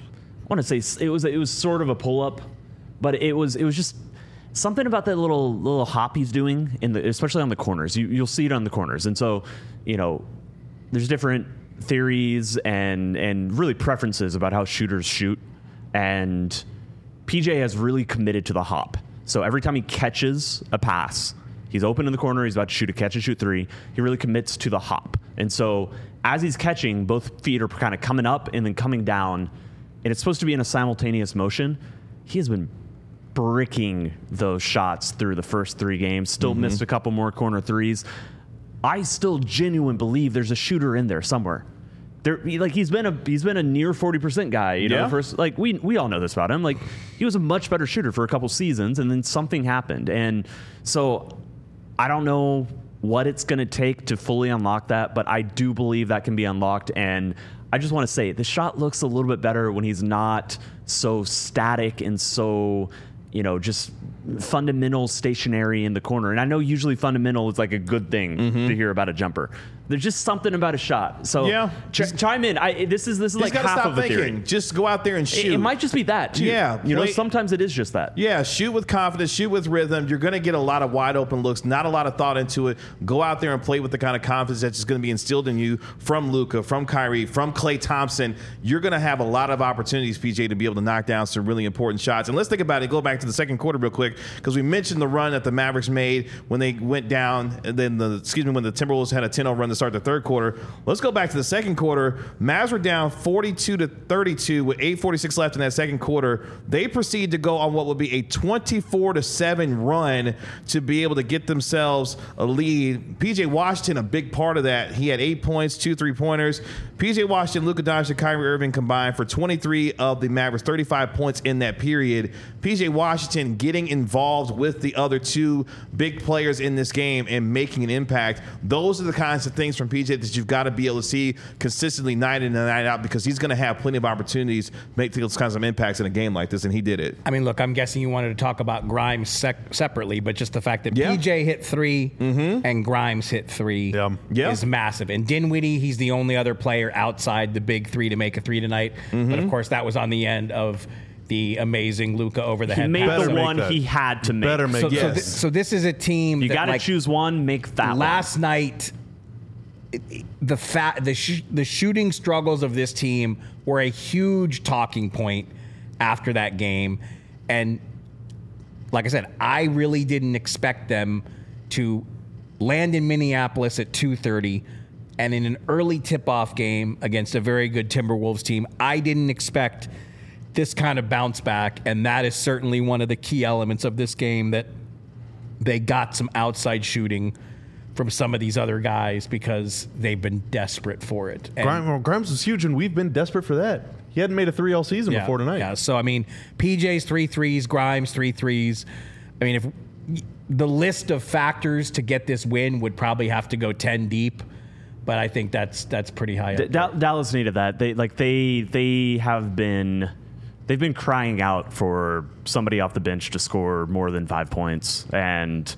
I want to say it was it was sort of a pull up, but it was it was just something about that little little hop he's doing in the especially on the corners. You you'll see it on the corners, and so you know there's different theories and and really preferences about how shooters shoot, and P J has really committed to the hop. So every time he catches a pass, he's open in the corner. He's about to shoot a catch and shoot three. He really commits to the hop. And so as he's catching, both feet are kind of coming up and then coming down. And it's supposed to be in a simultaneous motion. He has been bricking those shots through the first three games. Still mm-hmm. missed a couple more corner threes. I still genuinely believe there's a shooter in there somewhere. There, like he's been a he's been a near forty percent guy, you know. Yeah. First, like we we all know this about him. Like he was a much better shooter for a couple seasons, and then something happened, and so I don't know what it's going to take to fully unlock that, but I do believe that can be unlocked. And I just want to say the shot looks a little bit better when he's not so static and so, you know, just fundamental stationary in the corner. And I know usually fundamental is like a good thing Mm-hmm. to hear about a jumper. There's just something about a shot. So Yeah. ch- chime in. I, this is this is You like just gotta half stop of the theory. thinking. Just go out there and It, shoot. it might just be that too. Yeah, you know, play- sometimes it is just that. Yeah, shoot with confidence, shoot with rhythm. You're going to get a lot of wide open looks, not a lot of thought into it. Go out there and play with the kind of confidence that's just going to be instilled in you from Luka, from Kyrie, from Klay Thompson. You're going to have a lot of opportunities, P J, to be able to knock down some really important shots. And let's think about it. Go back to the second quarter real quick, because we mentioned the run that the Mavericks made when they went down, and then the excuse me when the Timberwolves had a ten oh run to start the third quarter. Let's go back to the second quarter. Mavs were down forty-two to thirty-two with eight forty-six left in that second quarter. They proceed to go on what would be a twenty-four to seven run to be able to get themselves a lead. P J Washington, a big part of that. He had eight points, two three-pointers. P J Washington, Luka Doncic, and Kyrie Irving combined for twenty-three of the Mavericks' thirty-five points in that period. P J Washington getting involved with the other two big players in this game and making an impact. Those are the kinds of things from P J that you've got to be able to see consistently night in and night out, because he's going to have plenty of opportunities to make those kinds of impacts in a game like this, and he did it. I mean, look, I'm guessing you wanted to talk about Grimes sec- separately, but just the fact that Yeah. P J hit three and Grimes hit three Yeah. Yeah. is massive. And Dinwiddie, he's the only other player outside the big three to make a three tonight. But of course, that was on the end of the amazing Luka over the He head made pass. the Better make one that. he had to make. Better make So, so, Yes. thi- so this is a team You that, got to like, choose one, make that last night. it- it- The fa- the sh- the shooting struggles of this team were a huge talking point after that game, and like I said, I really didn't expect them to land in Minneapolis at two thirty, and in an early tip-off game against a very good Timberwolves team, I didn't expect this kind of bounce back, and that is certainly one of the key elements of this game, that they got some outside shooting from some of these other guys because they've been desperate for it. And- Grimes, well, Grimes was huge, and we've been desperate for that. He hadn't made a three all season yeah, before tonight. Yeah, so I mean, P J's three threes, Grimes three threes. I mean, if the list of factors to get this win would probably have to go ten deep, but I think that's that's pretty high. D- Up Da- Dallas needed that. They like they they have been they've been crying out for somebody off the bench to score more than five points and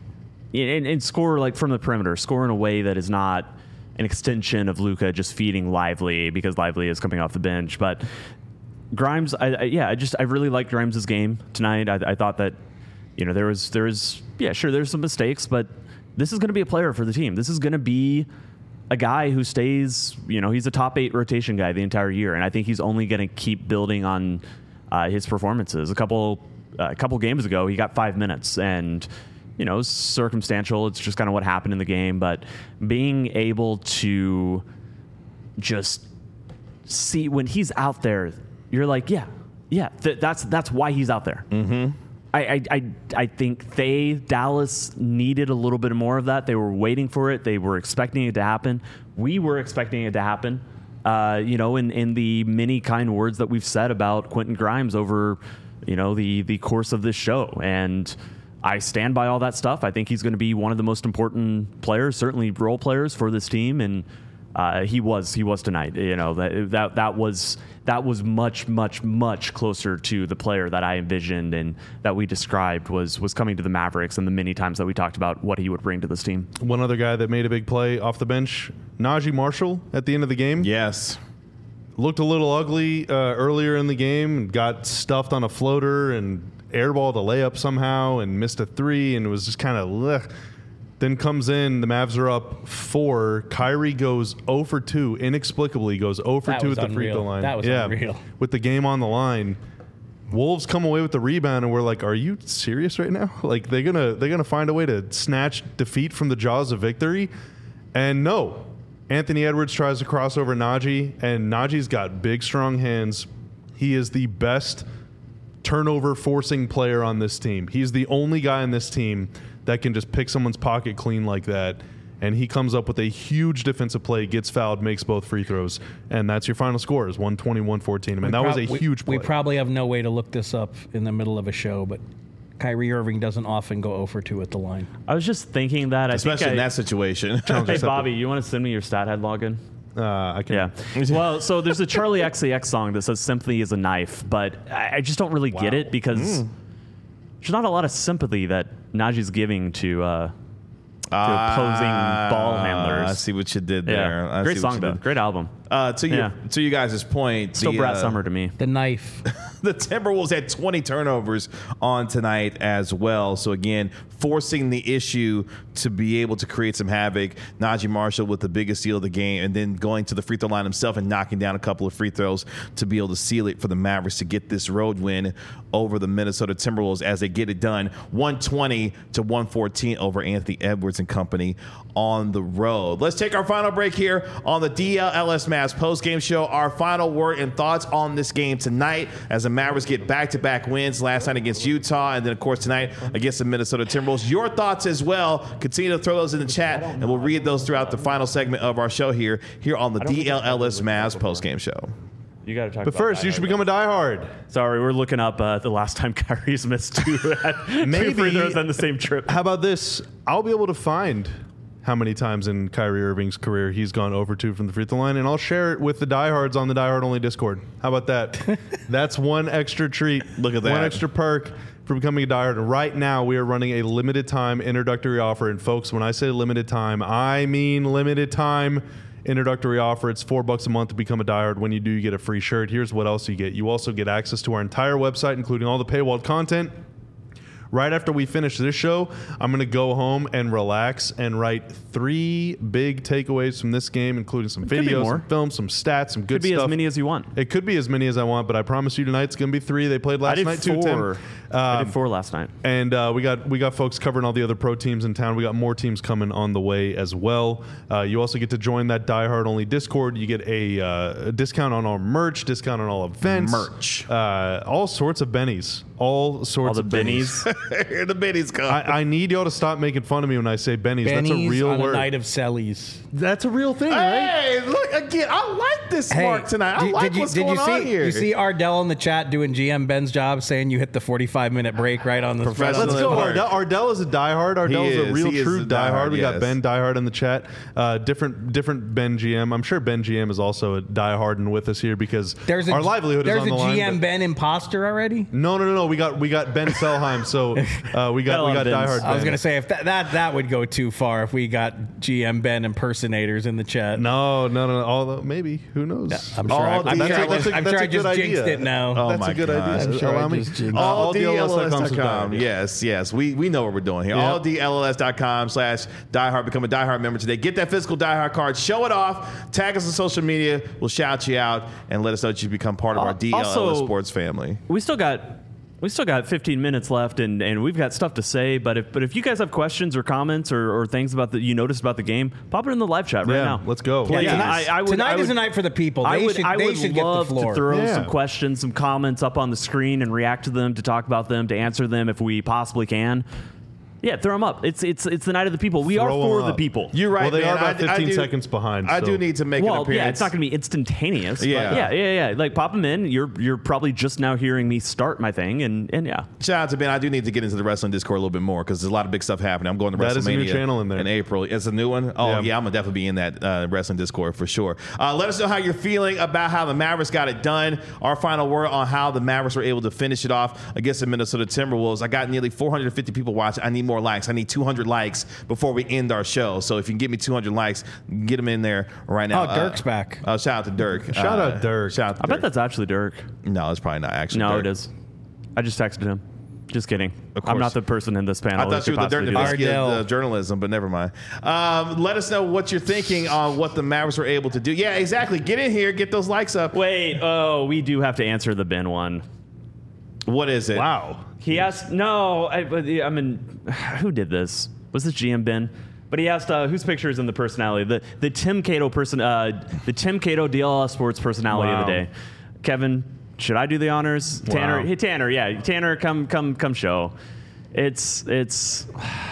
and, and score like from the perimeter, score in a way that is not an extension of Luka just feeding Lively because Lively is coming off the bench. But Grimes, I, I, yeah, I just I really liked Grimes' game tonight. I, I thought that you know there was there was yeah sure there's some mistakes, but this is going to be a player for the team. This is going to be a guy who stays, you know, he's a top eight rotation guy the entire year, and I think he's only going to keep building on uh, his performances. A couple, uh, a couple games ago, he got five minutes, and you know, circumstantial. It's just kind of what happened in the game, but being able to just see when he's out there, you're like, yeah, yeah, th- that's that's why he's out there. Mm-hmm. I, I, I, I think they, Dallas, needed a little bit more of that. They were waiting for it. They were expecting it to happen. We were expecting it to happen, uh, you know, in, in the many kind words that we've said about Quentin Grimes over, you know, the, the course of this show. And I stand by all that stuff. I think he's going to be one of the most important players, certainly role players for this team. And uh, he was, he was tonight. You know, that, that, that was... that was much, much, much closer to the player that I envisioned and that we described was was coming to the Mavericks, and the many times that we talked about what he would bring to this team. One other guy that made a big play off the bench, Najee Marshall, at the end of the game. Yes. Looked a little ugly uh, earlier in the game, got stuffed on a floater and airballed a layup somehow and missed a three, and it was just kind of then comes in, the Mavs are up four. Kyrie goes zero for two, inexplicably goes zero for That two was at the free unreal. throw line. That was yeah, unreal. with the game on the line. Wolves come away with the rebound, and we're like, "Are you serious right now? Like they're gonna they're gonna find a way to snatch defeat from the jaws of victory?" And no, Anthony Edwards tries to cross over Najee, and Najee's got big, strong hands. He is the best turnover forcing player on this team. He's the only guy on this team that can just pick someone's pocket clean like that. And he comes up with a huge defensive play, gets fouled, makes both free throws. And that's your final score is one twenty, one fourteen. I mean, that was a we, huge play. We probably have no way to look this up in the middle of a show, but Kyrie Irving doesn't often go zero for two at the line. I was just thinking that. I Especially think in I, that situation. Hey, Bobby, you want to send me your stat head login? Uh, I can. Yeah. Well, so there's a Charlie X C X song that says sympathy is a knife, but I, I just don't really get it because mm. there's not a lot of sympathy that Najee's giving to uh, to opposing uh, ball handlers. I see what you did there. Yeah. I Great song, though. Great album. Uh, to, yeah. your, to you guys' point. Still the, Brad uh, Summer to me. The knife. The Timberwolves had twenty turnovers on tonight as well. So, again, forcing the issue to be able to create some havoc. Naji Marshall with the biggest steal of the game, and then going to the free throw line himself and knocking down a couple of free throws to be able to seal it for the Mavericks to get this road win over the Minnesota Timberwolves as they get it done. one twenty to one fourteen over Anthony Edwards and company on the road. Let's take our final break here on the D L L S Mavs post-game show. Our final word and thoughts on this game tonight as the Mavericks get back-to-back wins last night against Utah and then, of course, tonight against the Minnesota Timberwolves. Your thoughts as well. Continue to throw those in the chat, and we'll read those throughout the final segment of our show here, here on the D L L S Mavs post-game show. You got to talk But about first, you should become a diehard. Sorry, we're looking up uh, the last time Kyrie's missed two, Maybe, two free throws on the same trip. How about this? I'll be able to find how many times in Kyrie Irving's career he's gone over two from the free throw line, and I'll share it with the diehards on the Diehard Only Discord. How about that? That's one extra treat. Look at that. One extra perk for becoming a diehard. And right now, we are running a limited time introductory offer. And folks, when I say limited time, I mean limited time introductory offer. It's four bucks a month to become a diehard. When you do, you get a free shirt. Here's what else you get. You also get access to our entire website, including all the paywalled content. Right after we finish this show, I'm going to go home and relax and write three big takeaways from this game, including some videos, some films, some stats, some good stuff. Could be stuff. as many as you want. It could be as many as I want, but I promise you tonight it's going to be three. They played last I did night four. too, Tim. Um, I did four last night. And uh, we got we got folks covering all the other pro teams in town. We got more teams coming on the way as well. Uh, you also get to join that diehard only Discord. You get a, uh, a discount on our merch, discount on all events, Merch. uh, all sorts of bennies, all sorts All the of bennies. bennies. Here the bennies come. I, I need y'all to stop making fun of me when I say bennies. Bennies That's a real on word. a night of Sellies. That's a real thing, right? Hey, look again. I like this mark tonight. I did, like did you, what's did going you see, on here. You see Ardell in the chat doing G M Ben's job, saying you hit the forty-five minute break right on the Professional. Let's go. Mark. Ardell, Ardell is a diehard. Ardell is, is. a real He is true a diehard. diehard, We got yes. Ben diehard in the chat. Uh, different different Ben G M. I'm sure Ben G M is also a diehard and with us here because There's a, our livelihood is there's on the a line. G M but- Ben imposter already. No, no, no, no. We got we got Ben Selheim. So uh, we got Got a we lot got of Bens. diehard. I was Ben. gonna say if that, that that would go too far if we got G M Ben impersonators in the chat. No, no, no. Although maybe who knows? I'm sure. All I, I'm the- sure I that's just, a- I'm that's sure a I just good jinxed idea. it now. Oh That's my a good gosh. idea. I'm sure I Allow me. just jinxed Uh, it. all all D L L S dot com. com. Yes, yes. We we know what we're doing here. Yep. all D L L S dot com slash diehard. Become a diehard member today. Get that physical diehard card. Show it off. Tag us on social media. We'll shout you out and let us know that you become part of our D L L S Also- sports family. We still got we still got fifteen minutes left, and, and we've got stuff to say. But if but if you guys have questions or comments or, or things about that you noticed about the game, pop it in the live chat right Yeah, now. let's go. Please. Yeah, tonight I, I would, tonight I would, is a night for the people. They I would, should, I they would should get the love floor. to throw Yeah. some questions, some comments up on the screen and react to them, to talk about them, to answer them if we possibly can. Yeah, throw them up. It's it's it's the night of the people. We Throw are 'em for up. the people. You're right, Well, they man. are about I- I fifteen do- seconds behind. I so. do need to make an Well, appearance. yeah, it's not going to be instantaneous. but Yeah. yeah, yeah, yeah. Like pop them in. You're you're probably just now hearing me start my thing, and and yeah. Shout out to Ben. I do need to get into the wrestling Discord a little bit more because there's a lot of big stuff happening. I'm going to That is a WrestleMania new channel in there. in April. It's a new one. Oh yeah, Yeah. I'm gonna definitely be in that uh, wrestling Discord for sure. Uh, let us know how you're feeling about how the Mavericks got it done. Our final word on how the Mavericks were able to finish it off against the Minnesota Timberwolves. I got nearly four hundred fifty people watching. I need more likes. I need two hundred likes before we end our show. So if you can get me two hundred likes, get them in there right now. Oh, Dirk's uh, back. Uh, shout out to Dirk. Shout Uh, out Dirk. Shout out to I Dirk. bet that's actually Dirk. No, it's probably not actually. No, Dirk. it is. I just texted him. Just kidding. Of I'm course. not the person in this panel. I who thought you could were the Dirk possibly do that. Nowitzki of Ardell. the journalism, but never mind. Um, let us know what you're thinking on what the Mavericks were able to do. Yeah, exactly. Get in here, get those likes up. Wait, oh, we do have to answer the Ben one. What is it? Wow. He asked, no, I, but, I mean, who did this? Was this G M Ben? But he asked, uh, whose picture is in the personality? The the Tim Cato person, uh, the Tim Cato D L L Sports personality Wow. of the day. Kevin, should I do the honors? Tanner, Wow. hey Tanner, yeah, Tanner, come come come show. It's it's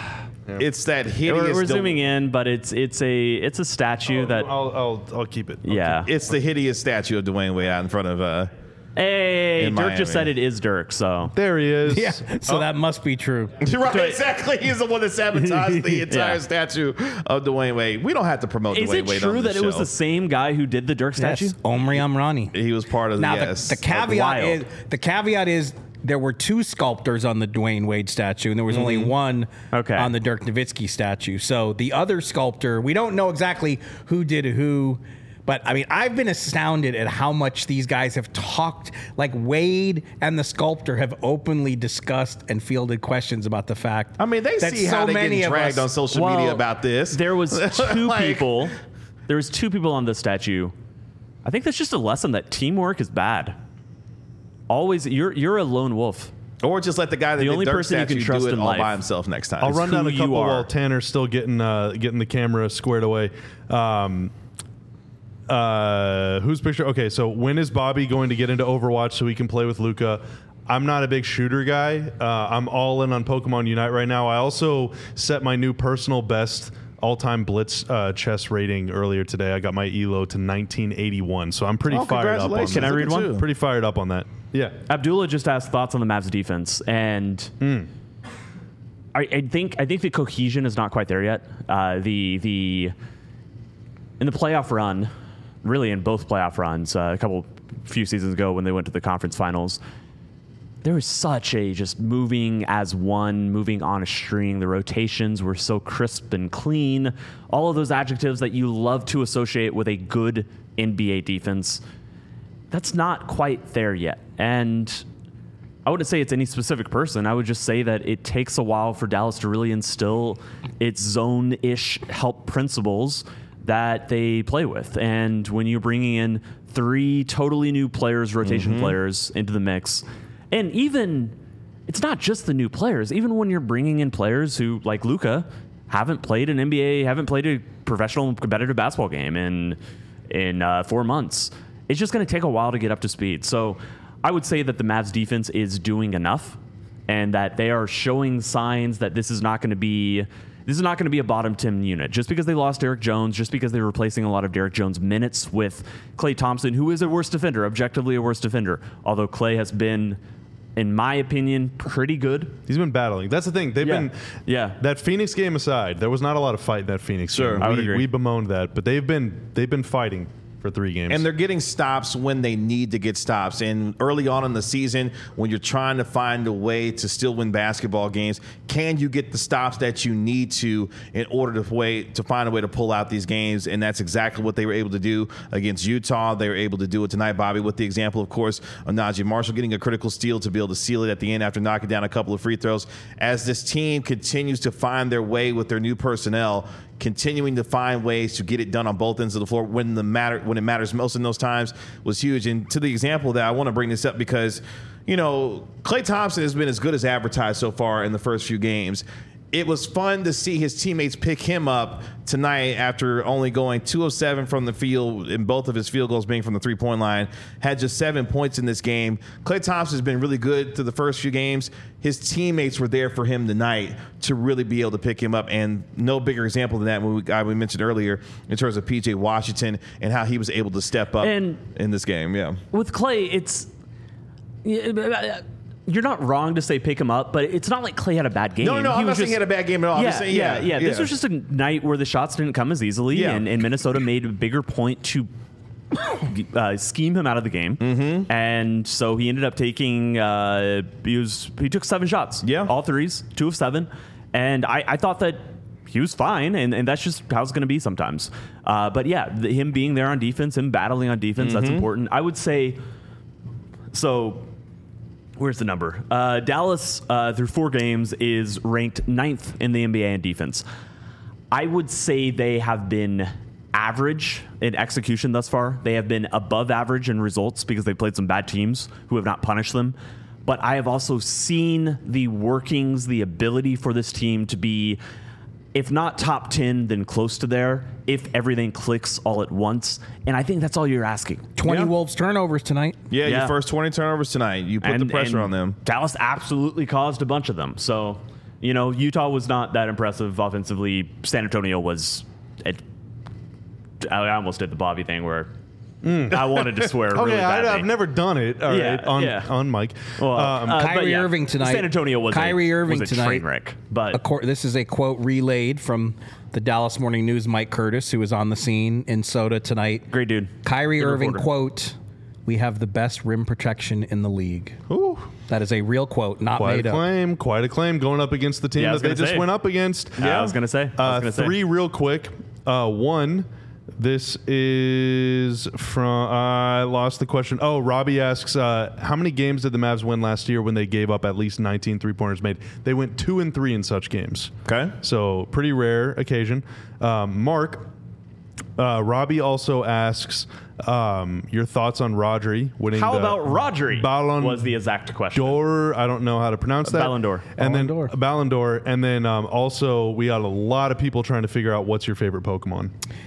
It's that hideous. we're, we're do- zooming in, but it's it's a it's a statue that I'll, I'll I'll keep it. I'll yeah. It's the hideous statue of Dwayne Wade out in front of uh, Hey, in Dirk Miami. just said it is Dirk, so. There he is. Yeah, so that must be true. Right, exactly. He's the one that sabotaged the entire Yeah. statue of Dwayne Wade. We don't have to promote Is Dwayne it Wade true on that this it was show. the same guy who did the Dirk statue? Yes, Omri Amrani. He was part of the Now yes. the, the caveat wild. is the caveat is there were two sculptors on the Dwayne Wade statue, and there was only one Okay. on the Dirk Nowitzki statue. So the other sculptor, we don't know exactly who did who. But I mean, I've been astounded at how much these guys have talked. Like Wade and the sculptor have openly discussed and fielded questions about the fact. I mean, they that see so how they many get of dragged us- on social Well, media about this. There was two Like- people. There was two people on the statue. I think that's just a lesson that teamwork is bad. Always, you're you're a lone wolf. Or just let the guy that The did only Dirk person you can statue trust do it in all life. by himself next time. I'll run down who a you couple are. while Tanner's still getting uh, getting the camera squared away. Um, uh, whose picture? Okay, so when is Bobby going to get into Overwatch so he can play with Luca? I'm not a big shooter guy. Uh, I'm all in on Pokemon Unite right now. I also set my new personal best all-time Blitz uh, chess rating earlier today. I got my E L O to nineteen eighty-one, so I'm pretty Oh, fired up on congratulations. that. Can I read Look at one? you. Pretty fired up on that. Yeah. Abdullah just asked thoughts on the Mavs defense, and I, I think I think the cohesion is not quite there yet. Uh, the the in the playoff run, really in both playoff runs, uh, a couple few seasons ago when they went to the conference finals, there was such a just moving as one, moving on a string. The rotations were so crisp and clean. All of those adjectives that you love to associate with a good N B A defense. That's not quite there yet. And I wouldn't say it's any specific person. I would just say that it takes a while for Dallas to really instill its zone-ish help principles that they play with. And when you're bringing in three totally new players, rotation players into the mix, and even it's not just the new players, even when you're bringing in players who, like Luka, haven't played an N B A, haven't played a professional competitive basketball game in, in uh, four months, it's just going to take a while to get up to speed. So I would say that the Mavs defense is doing enough and that they are showing signs that this is not going to be this is not going to be a bottom ten unit. Just because they lost Derek Jones, just because they're replacing a lot of Derek Jones minutes with Klay Thompson, who is a worse defender, objectively a worse defender. Although Klay has been, in my opinion, pretty good. He's been battling. That's the thing. They've Yeah. been Yeah. That Phoenix game aside, there was not a lot of fight in that Phoenix Sure. game. I would we, agree. we bemoaned that, but they've been they've been fighting for three games. And they're getting stops when they need to get stops. And early on in the season, when you're trying to find a way to still win basketball games, can you get the stops that you need to in order to way to find a way to pull out these games? And that's exactly what they were able to do against Utah. They were able to do it tonight, Bobby, with the example, of course, of Najee Marshall getting a critical steal to be able to seal it at the end after knocking down a couple of free throws. As this team continues to find their way with their new personnel, continuing to find ways to get it done on both ends of the floor when the matter when it matters most in those times was huge. And to the example that I want to bring this up because, you know, Klay Thompson has been as good as advertised so far in the first few games. It was fun to see his teammates pick him up tonight after only going two of seven from the field and both of his field goals being from the three-point line. Had just seven points in this game. Klay Thompson has been really good through the first few games. His teammates were there for him tonight to really be able to pick him up. And no bigger example than that when we, guy we mentioned earlier in terms of P J Washington and how he was able to step up And- in this game. Yeah. With Klay, it's you're not wrong to say pick him up, but it's not like Klay had a bad game. No, no, no. He I'm was not saying just- he had a bad game at all. I'm Yeah, just saying, yeah, yeah, yeah, This was just a night where the shots didn't come as easily, Yeah. and, and Minnesota made a bigger point to uh, scheme him out of the game, mm-hmm. and so he ended up taking. Uh, he was he took seven shots, Yeah. all threes, two of seven, and I, I thought that he was fine, and, and that's just how it's going to be sometimes. Uh, but yeah, the, him being there on defense, him battling on defense, Mm-hmm. that's important. I would say so. Where's the number? Uh, Dallas, uh, through four games, is ranked ninth in the N B A in defense. I would say they have been average in execution thus far. They have been above average in results because they played some bad teams who have not punished them. But I have also seen the workings, the ability for this team to be, if not top ten, then close to there, if everything clicks all at once. And I think that's all you're asking. twenty Yeah. Wolves turnovers tonight. Yeah, Yeah. your first twenty turnovers tonight. You put the pressure on them. Dallas absolutely caused a bunch of them. So, you know, Utah was not that impressive offensively. San Antonio was. It, I almost did the Bobby thing where I wanted to swear. Okay, really I, badly. I've never done it. All right, Yeah, on yeah. on mic. Well, um, uh, but Kyrie yeah, Irving tonight. San Antonio was Kyrie a, Irving was a tonight. train wreck, but A cor- this is a quote relayed from the Dallas Morning News, Mike Curtis, who was on the scene in Soda tonight. great dude. Kyrie Good Irving, reporter. quote, "We have the best rim protection in the league." Ooh, That is a real quote, not quite made a up. claim. Quite a claim going up against the team Yeah, I that was they gonna just say. went up against. Yeah, I was gonna say. I was Uh, gonna say. three real quick. Uh, one. This is from. I lost the question. Oh, Robbie asks, uh, how many games did the Mavs win last year when they gave up at least nineteen three-pointers made? They went two and three in such games. Okay. So pretty rare occasion. Um, Mark, uh, Robbie also asks um, your thoughts on Rodri winning. How the about Rodri? Ballon was the exact question. d'Or. I don't know how to pronounce that. Ballon d'Or. And Ballon then d'Or. Ballon d'Or. And then um, also we got a lot of people trying to figure out what's your favorite Pokemon.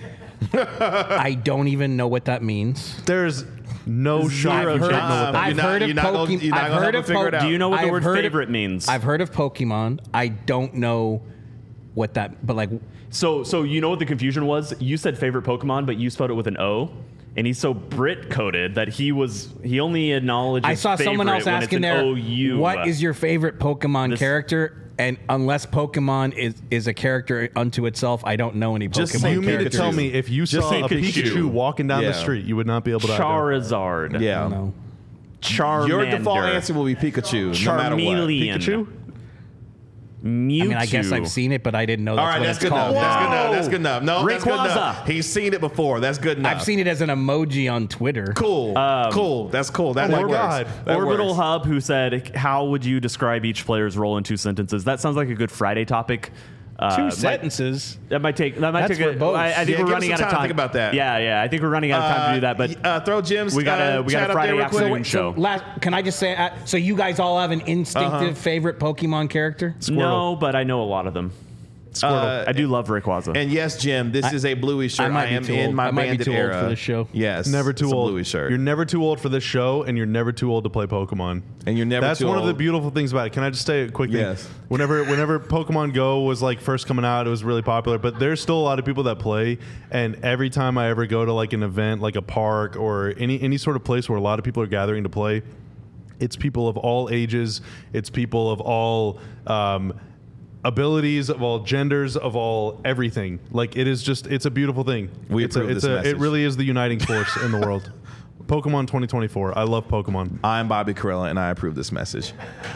I don't even know what that means. There's no shot I've you heard, can't know what that I've You're not- heard of you're not gonna- Pokemon. you're not I've gonna heard help of us figure it Po- out. Do you know what the I've word heard of- favorite means? I've heard of Pokemon. I don't know what that, but like, So, so you know what the confusion was? You said favorite Pokemon, but you spelled it with an O, and he's so Brit coded that he was he only acknowledged. I saw someone else when it's asking an there, O U. what is your favorite Pokemon This- character? And unless Pokemon is, is a character unto itself, I don't know any Just Pokemon say You mean to characters. tell me if you Just saw a Pikachu. Pikachu walking down Yeah. the street, you would not be able to Charizard? Yeah. No. Charmander. Your default answer will be Pikachu, no matter what. Charmeleon. Pikachu? Mewtwo. I mean, I guess I've seen it, but I didn't know that's All right, what that's it's good enough. called. That's good enough. Whoa. That's good enough. No, that's good Rayquaza. enough. He's seen it before. That's good enough. I've seen it as an emoji on Twitter. Cool. cool. That's cool. That, Oh my that works. God. That Orbital works. Hub, who said, "How would you describe each player's role in two sentences?" That sounds like a good Friday topic. Uh, Two might- sentences. That might take. That might That's take. A, verbose. I, I think Yeah, we're give us running some out of time to time. think about that. Yeah, yeah. I think we're running out of time to do that. But uh, throw Jim's we got a uh, we got chat a up Friday there real quick. afternoon show. So last, can I just say, uh, so you guys all have an instinctive Uh-huh. favorite Pokemon character? No, but I know a lot of them. Uh, I do love Rayquaza. And yes, Jim, this is a Bluey shirt. I might I, be am too in old. my I might be bandit too old era for this show. Yes, Never too it's a old. Bluey shirt. You're never too old for this show, and you're never too old to play Pokemon. And you're never That's too one of the old. beautiful things about it. Can I just say a quick thing? Yes. Whenever, whenever Pokemon Go was like first coming out, it was really popular. But there's still a lot of people that play. And every time I ever go to like an event, like a park or any any sort of place where a lot of people are gathering to play, it's people of all ages. It's people of all. Um, abilities of all genders of all everything. Like it is just it's a beautiful thing. We it's a, approve it's this a, message. it really is the uniting force in the world. Pokemon twenty twenty-four. I love Pokemon. I'm Bobby Corella, and I approve this message.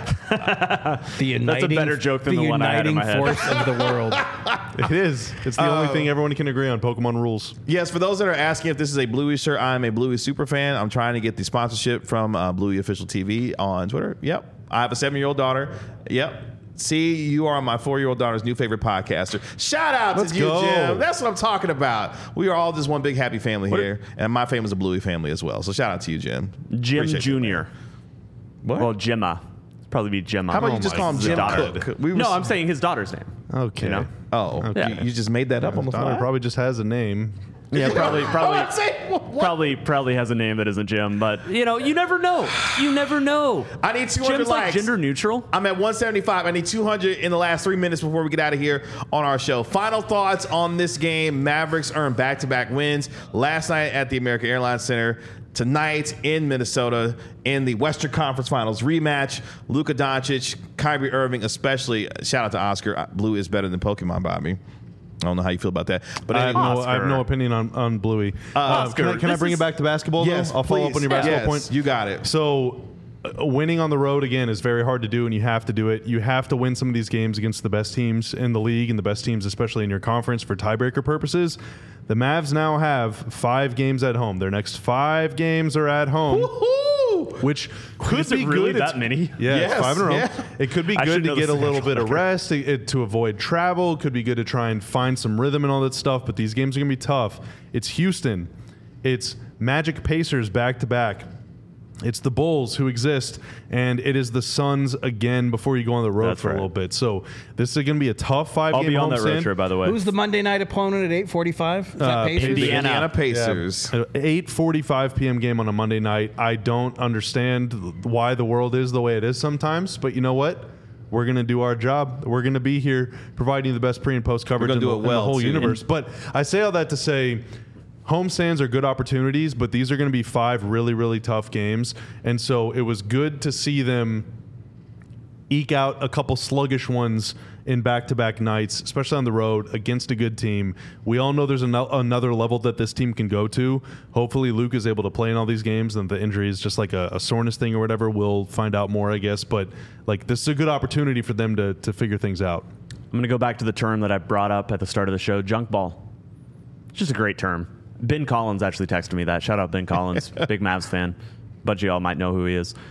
The uniting, That's a better joke than the one I had in uniting my head. force of the world. It is. It's the only thing everyone can agree on. Pokemon rules. Yes, for those that are asking if this is a Bluey shirt, I'm a Bluey super fan. I'm trying to get the sponsorship from uh, Bluey Official T V on Twitter. Yep. I have a seven-year-old daughter. Yep. See, you are my four-year-old daughter's new favorite podcaster. Shout out Let's to you, go. Jim. That's what I'm talking about. We are all just one big happy family here, and my family's a Bluey family as well. So shout out to you, Jim. Jim Appreciate you, Junior man. What? Well, Gemma. It'd probably be Gemma. How about Oh you just my call him his Jim daughter. Cook? We No, was- I'm saying his daughter's name. Okay. You know? Oh, Okay. you, you just made that up on the Daughter fly? probably just has a name. Yeah, probably, probably, Oh, say, what? probably, probably has a name that isn't Jim. But you know, you never know. You never know. I need two hundred Jim's like likes. gender neutral. I'm at one seventy-five. I need two hundred in the last three minutes before we get out of here on our show. Final thoughts on this game. Mavericks earned back-to-back wins last night at the American Airlines Center. Tonight in Minnesota in the Western Conference Finals rematch. Luka Doncic, Kyrie Irving especially. Shout out to Oscar. Blue is better than Pokemon, Bobby. I don't know how you feel about that. But I have, anyway, no, I have no opinion on, on Bluey. Uh, Oscar, can I, can I this bring is- it back to basketball, yes, though? I'll follow please. up on your basketball Yes, point. you got it. So, uh, winning on the road, again, is very hard to do, and you have to do it. You have to win some of these games against the best teams in the league and the best teams, especially in your conference, for tiebreaker purposes. The Mavs now have five games at home. Their next five games are at home. Woohoo! Which could Is it be really good. that It's- many? Yeah, Yes, it's five in a row. yeah. It could be I good should to know get the a little schedule. bit of rest, to, it- to avoid travel. Could be good to try and find some rhythm and all that stuff. But these games are going to be tough. It's Houston. It's Magic Pacers back to back. It's the Bulls who exist, and it is the Suns again before you go on the road That's for right. a little bit. So this is going to be a tough five I'll game be on that road homestand. trip, by the way. Who's the Monday night opponent at eight forty-five? Is that Uh, Pacers? The Indiana. Indiana Pacers. eight forty-five p.m. game on a Monday night. I don't understand why the world is the way it is sometimes, but you know what? We're going to do our job. We're going to be here providing you the best pre and post coverage gonna in, do the, it in the well, whole too. universe. But I say all that to say homestands are good opportunities, but these are going to be five really, really tough games. And so it was good to see them eke out a couple sluggish ones in back-to-back nights, especially on the road against a good team. We all know there's an- another level that this team can go to. Hopefully Luke is able to play in all these games, and the injury is just like a, a soreness thing or whatever. We'll find out more, I guess. But like this is a good opportunity for them to, to figure things out. I'm going to go back to the term that I brought up at the start of the show, junk ball. It's just a great term. Ben Collins actually texted me that. Shout out Ben Collins, big Mavs fan. But you all might know who he is.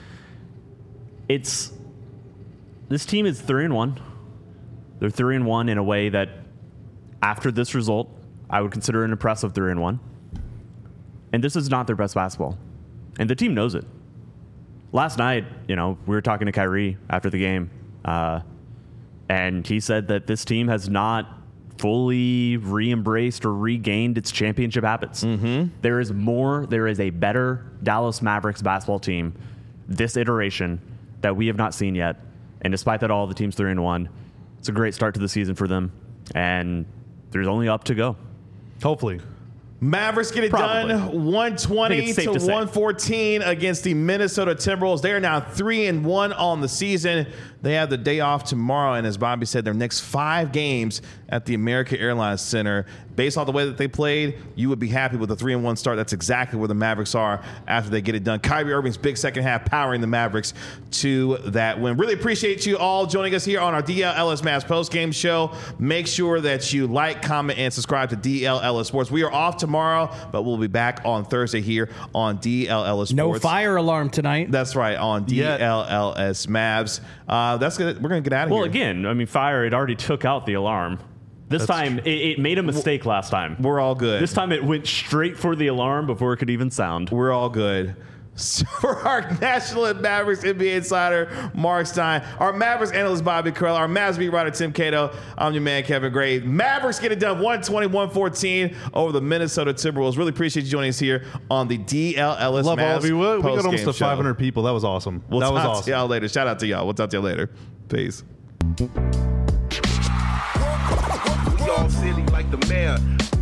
It's this team is three and one. They're three and one in a way that, after this result, I would consider an impressive three and one. And this is not their best basketball, and the team knows it. Last night, you know, we were talking to Kyrie after the game, uh, and he said that this team has not fully re-embraced or regained its championship habits. Mm-hmm. There is more. There is a better Dallas Mavericks basketball team this iteration that we have not seen yet. And despite that all, the team's three and one. It's a great start to the season for them, and there's only up to go. Hopefully. Mavericks get it Probably. done one twenty to, to one fourteen against the Minnesota Timberwolves. They are now three and one on the season. They have the day off tomorrow, and as Bobby said, their next five games at the American Airlines Center. Based on the way that they played, you would be happy with a three and one start. That's exactly where the Mavericks are after they get it done. Kyrie Irving's big second half powering the Mavericks to that win. Really appreciate you all joining us here on our D L L S Mavs postgame show. Make sure that you like, comment, and subscribe to D L L S Sports. We are off tomorrow, but we'll be back on Thursday here on D L L S Sports. No fire alarm tonight. That's right, on D L L S Mavs. Uh, that's gonna, we're going to get out of Well, here. again, I mean, fire, it already took out the alarm. This That's time, it, it made a mistake last time. We're all good. This time, it went straight for the alarm before it could even sound. We're all good. So for our National and Mavericks N B A insider, Mark Stein, our Mavericks analyst, Bobby Carell, our Mavs beat writer, Tim Cato, I'm your man, Kevin Gray. Mavericks get it done one twenty to one fourteen over the Minnesota Timberwolves. Really appreciate you joining us here on the D L L S Love Mavs all of you. We we got postgame almost to show. five hundred people. That was awesome. We'll that was talk awesome. to y'all later. Shout out to y'all. We'll talk to y'all later. Peace. We all silly like the mayor.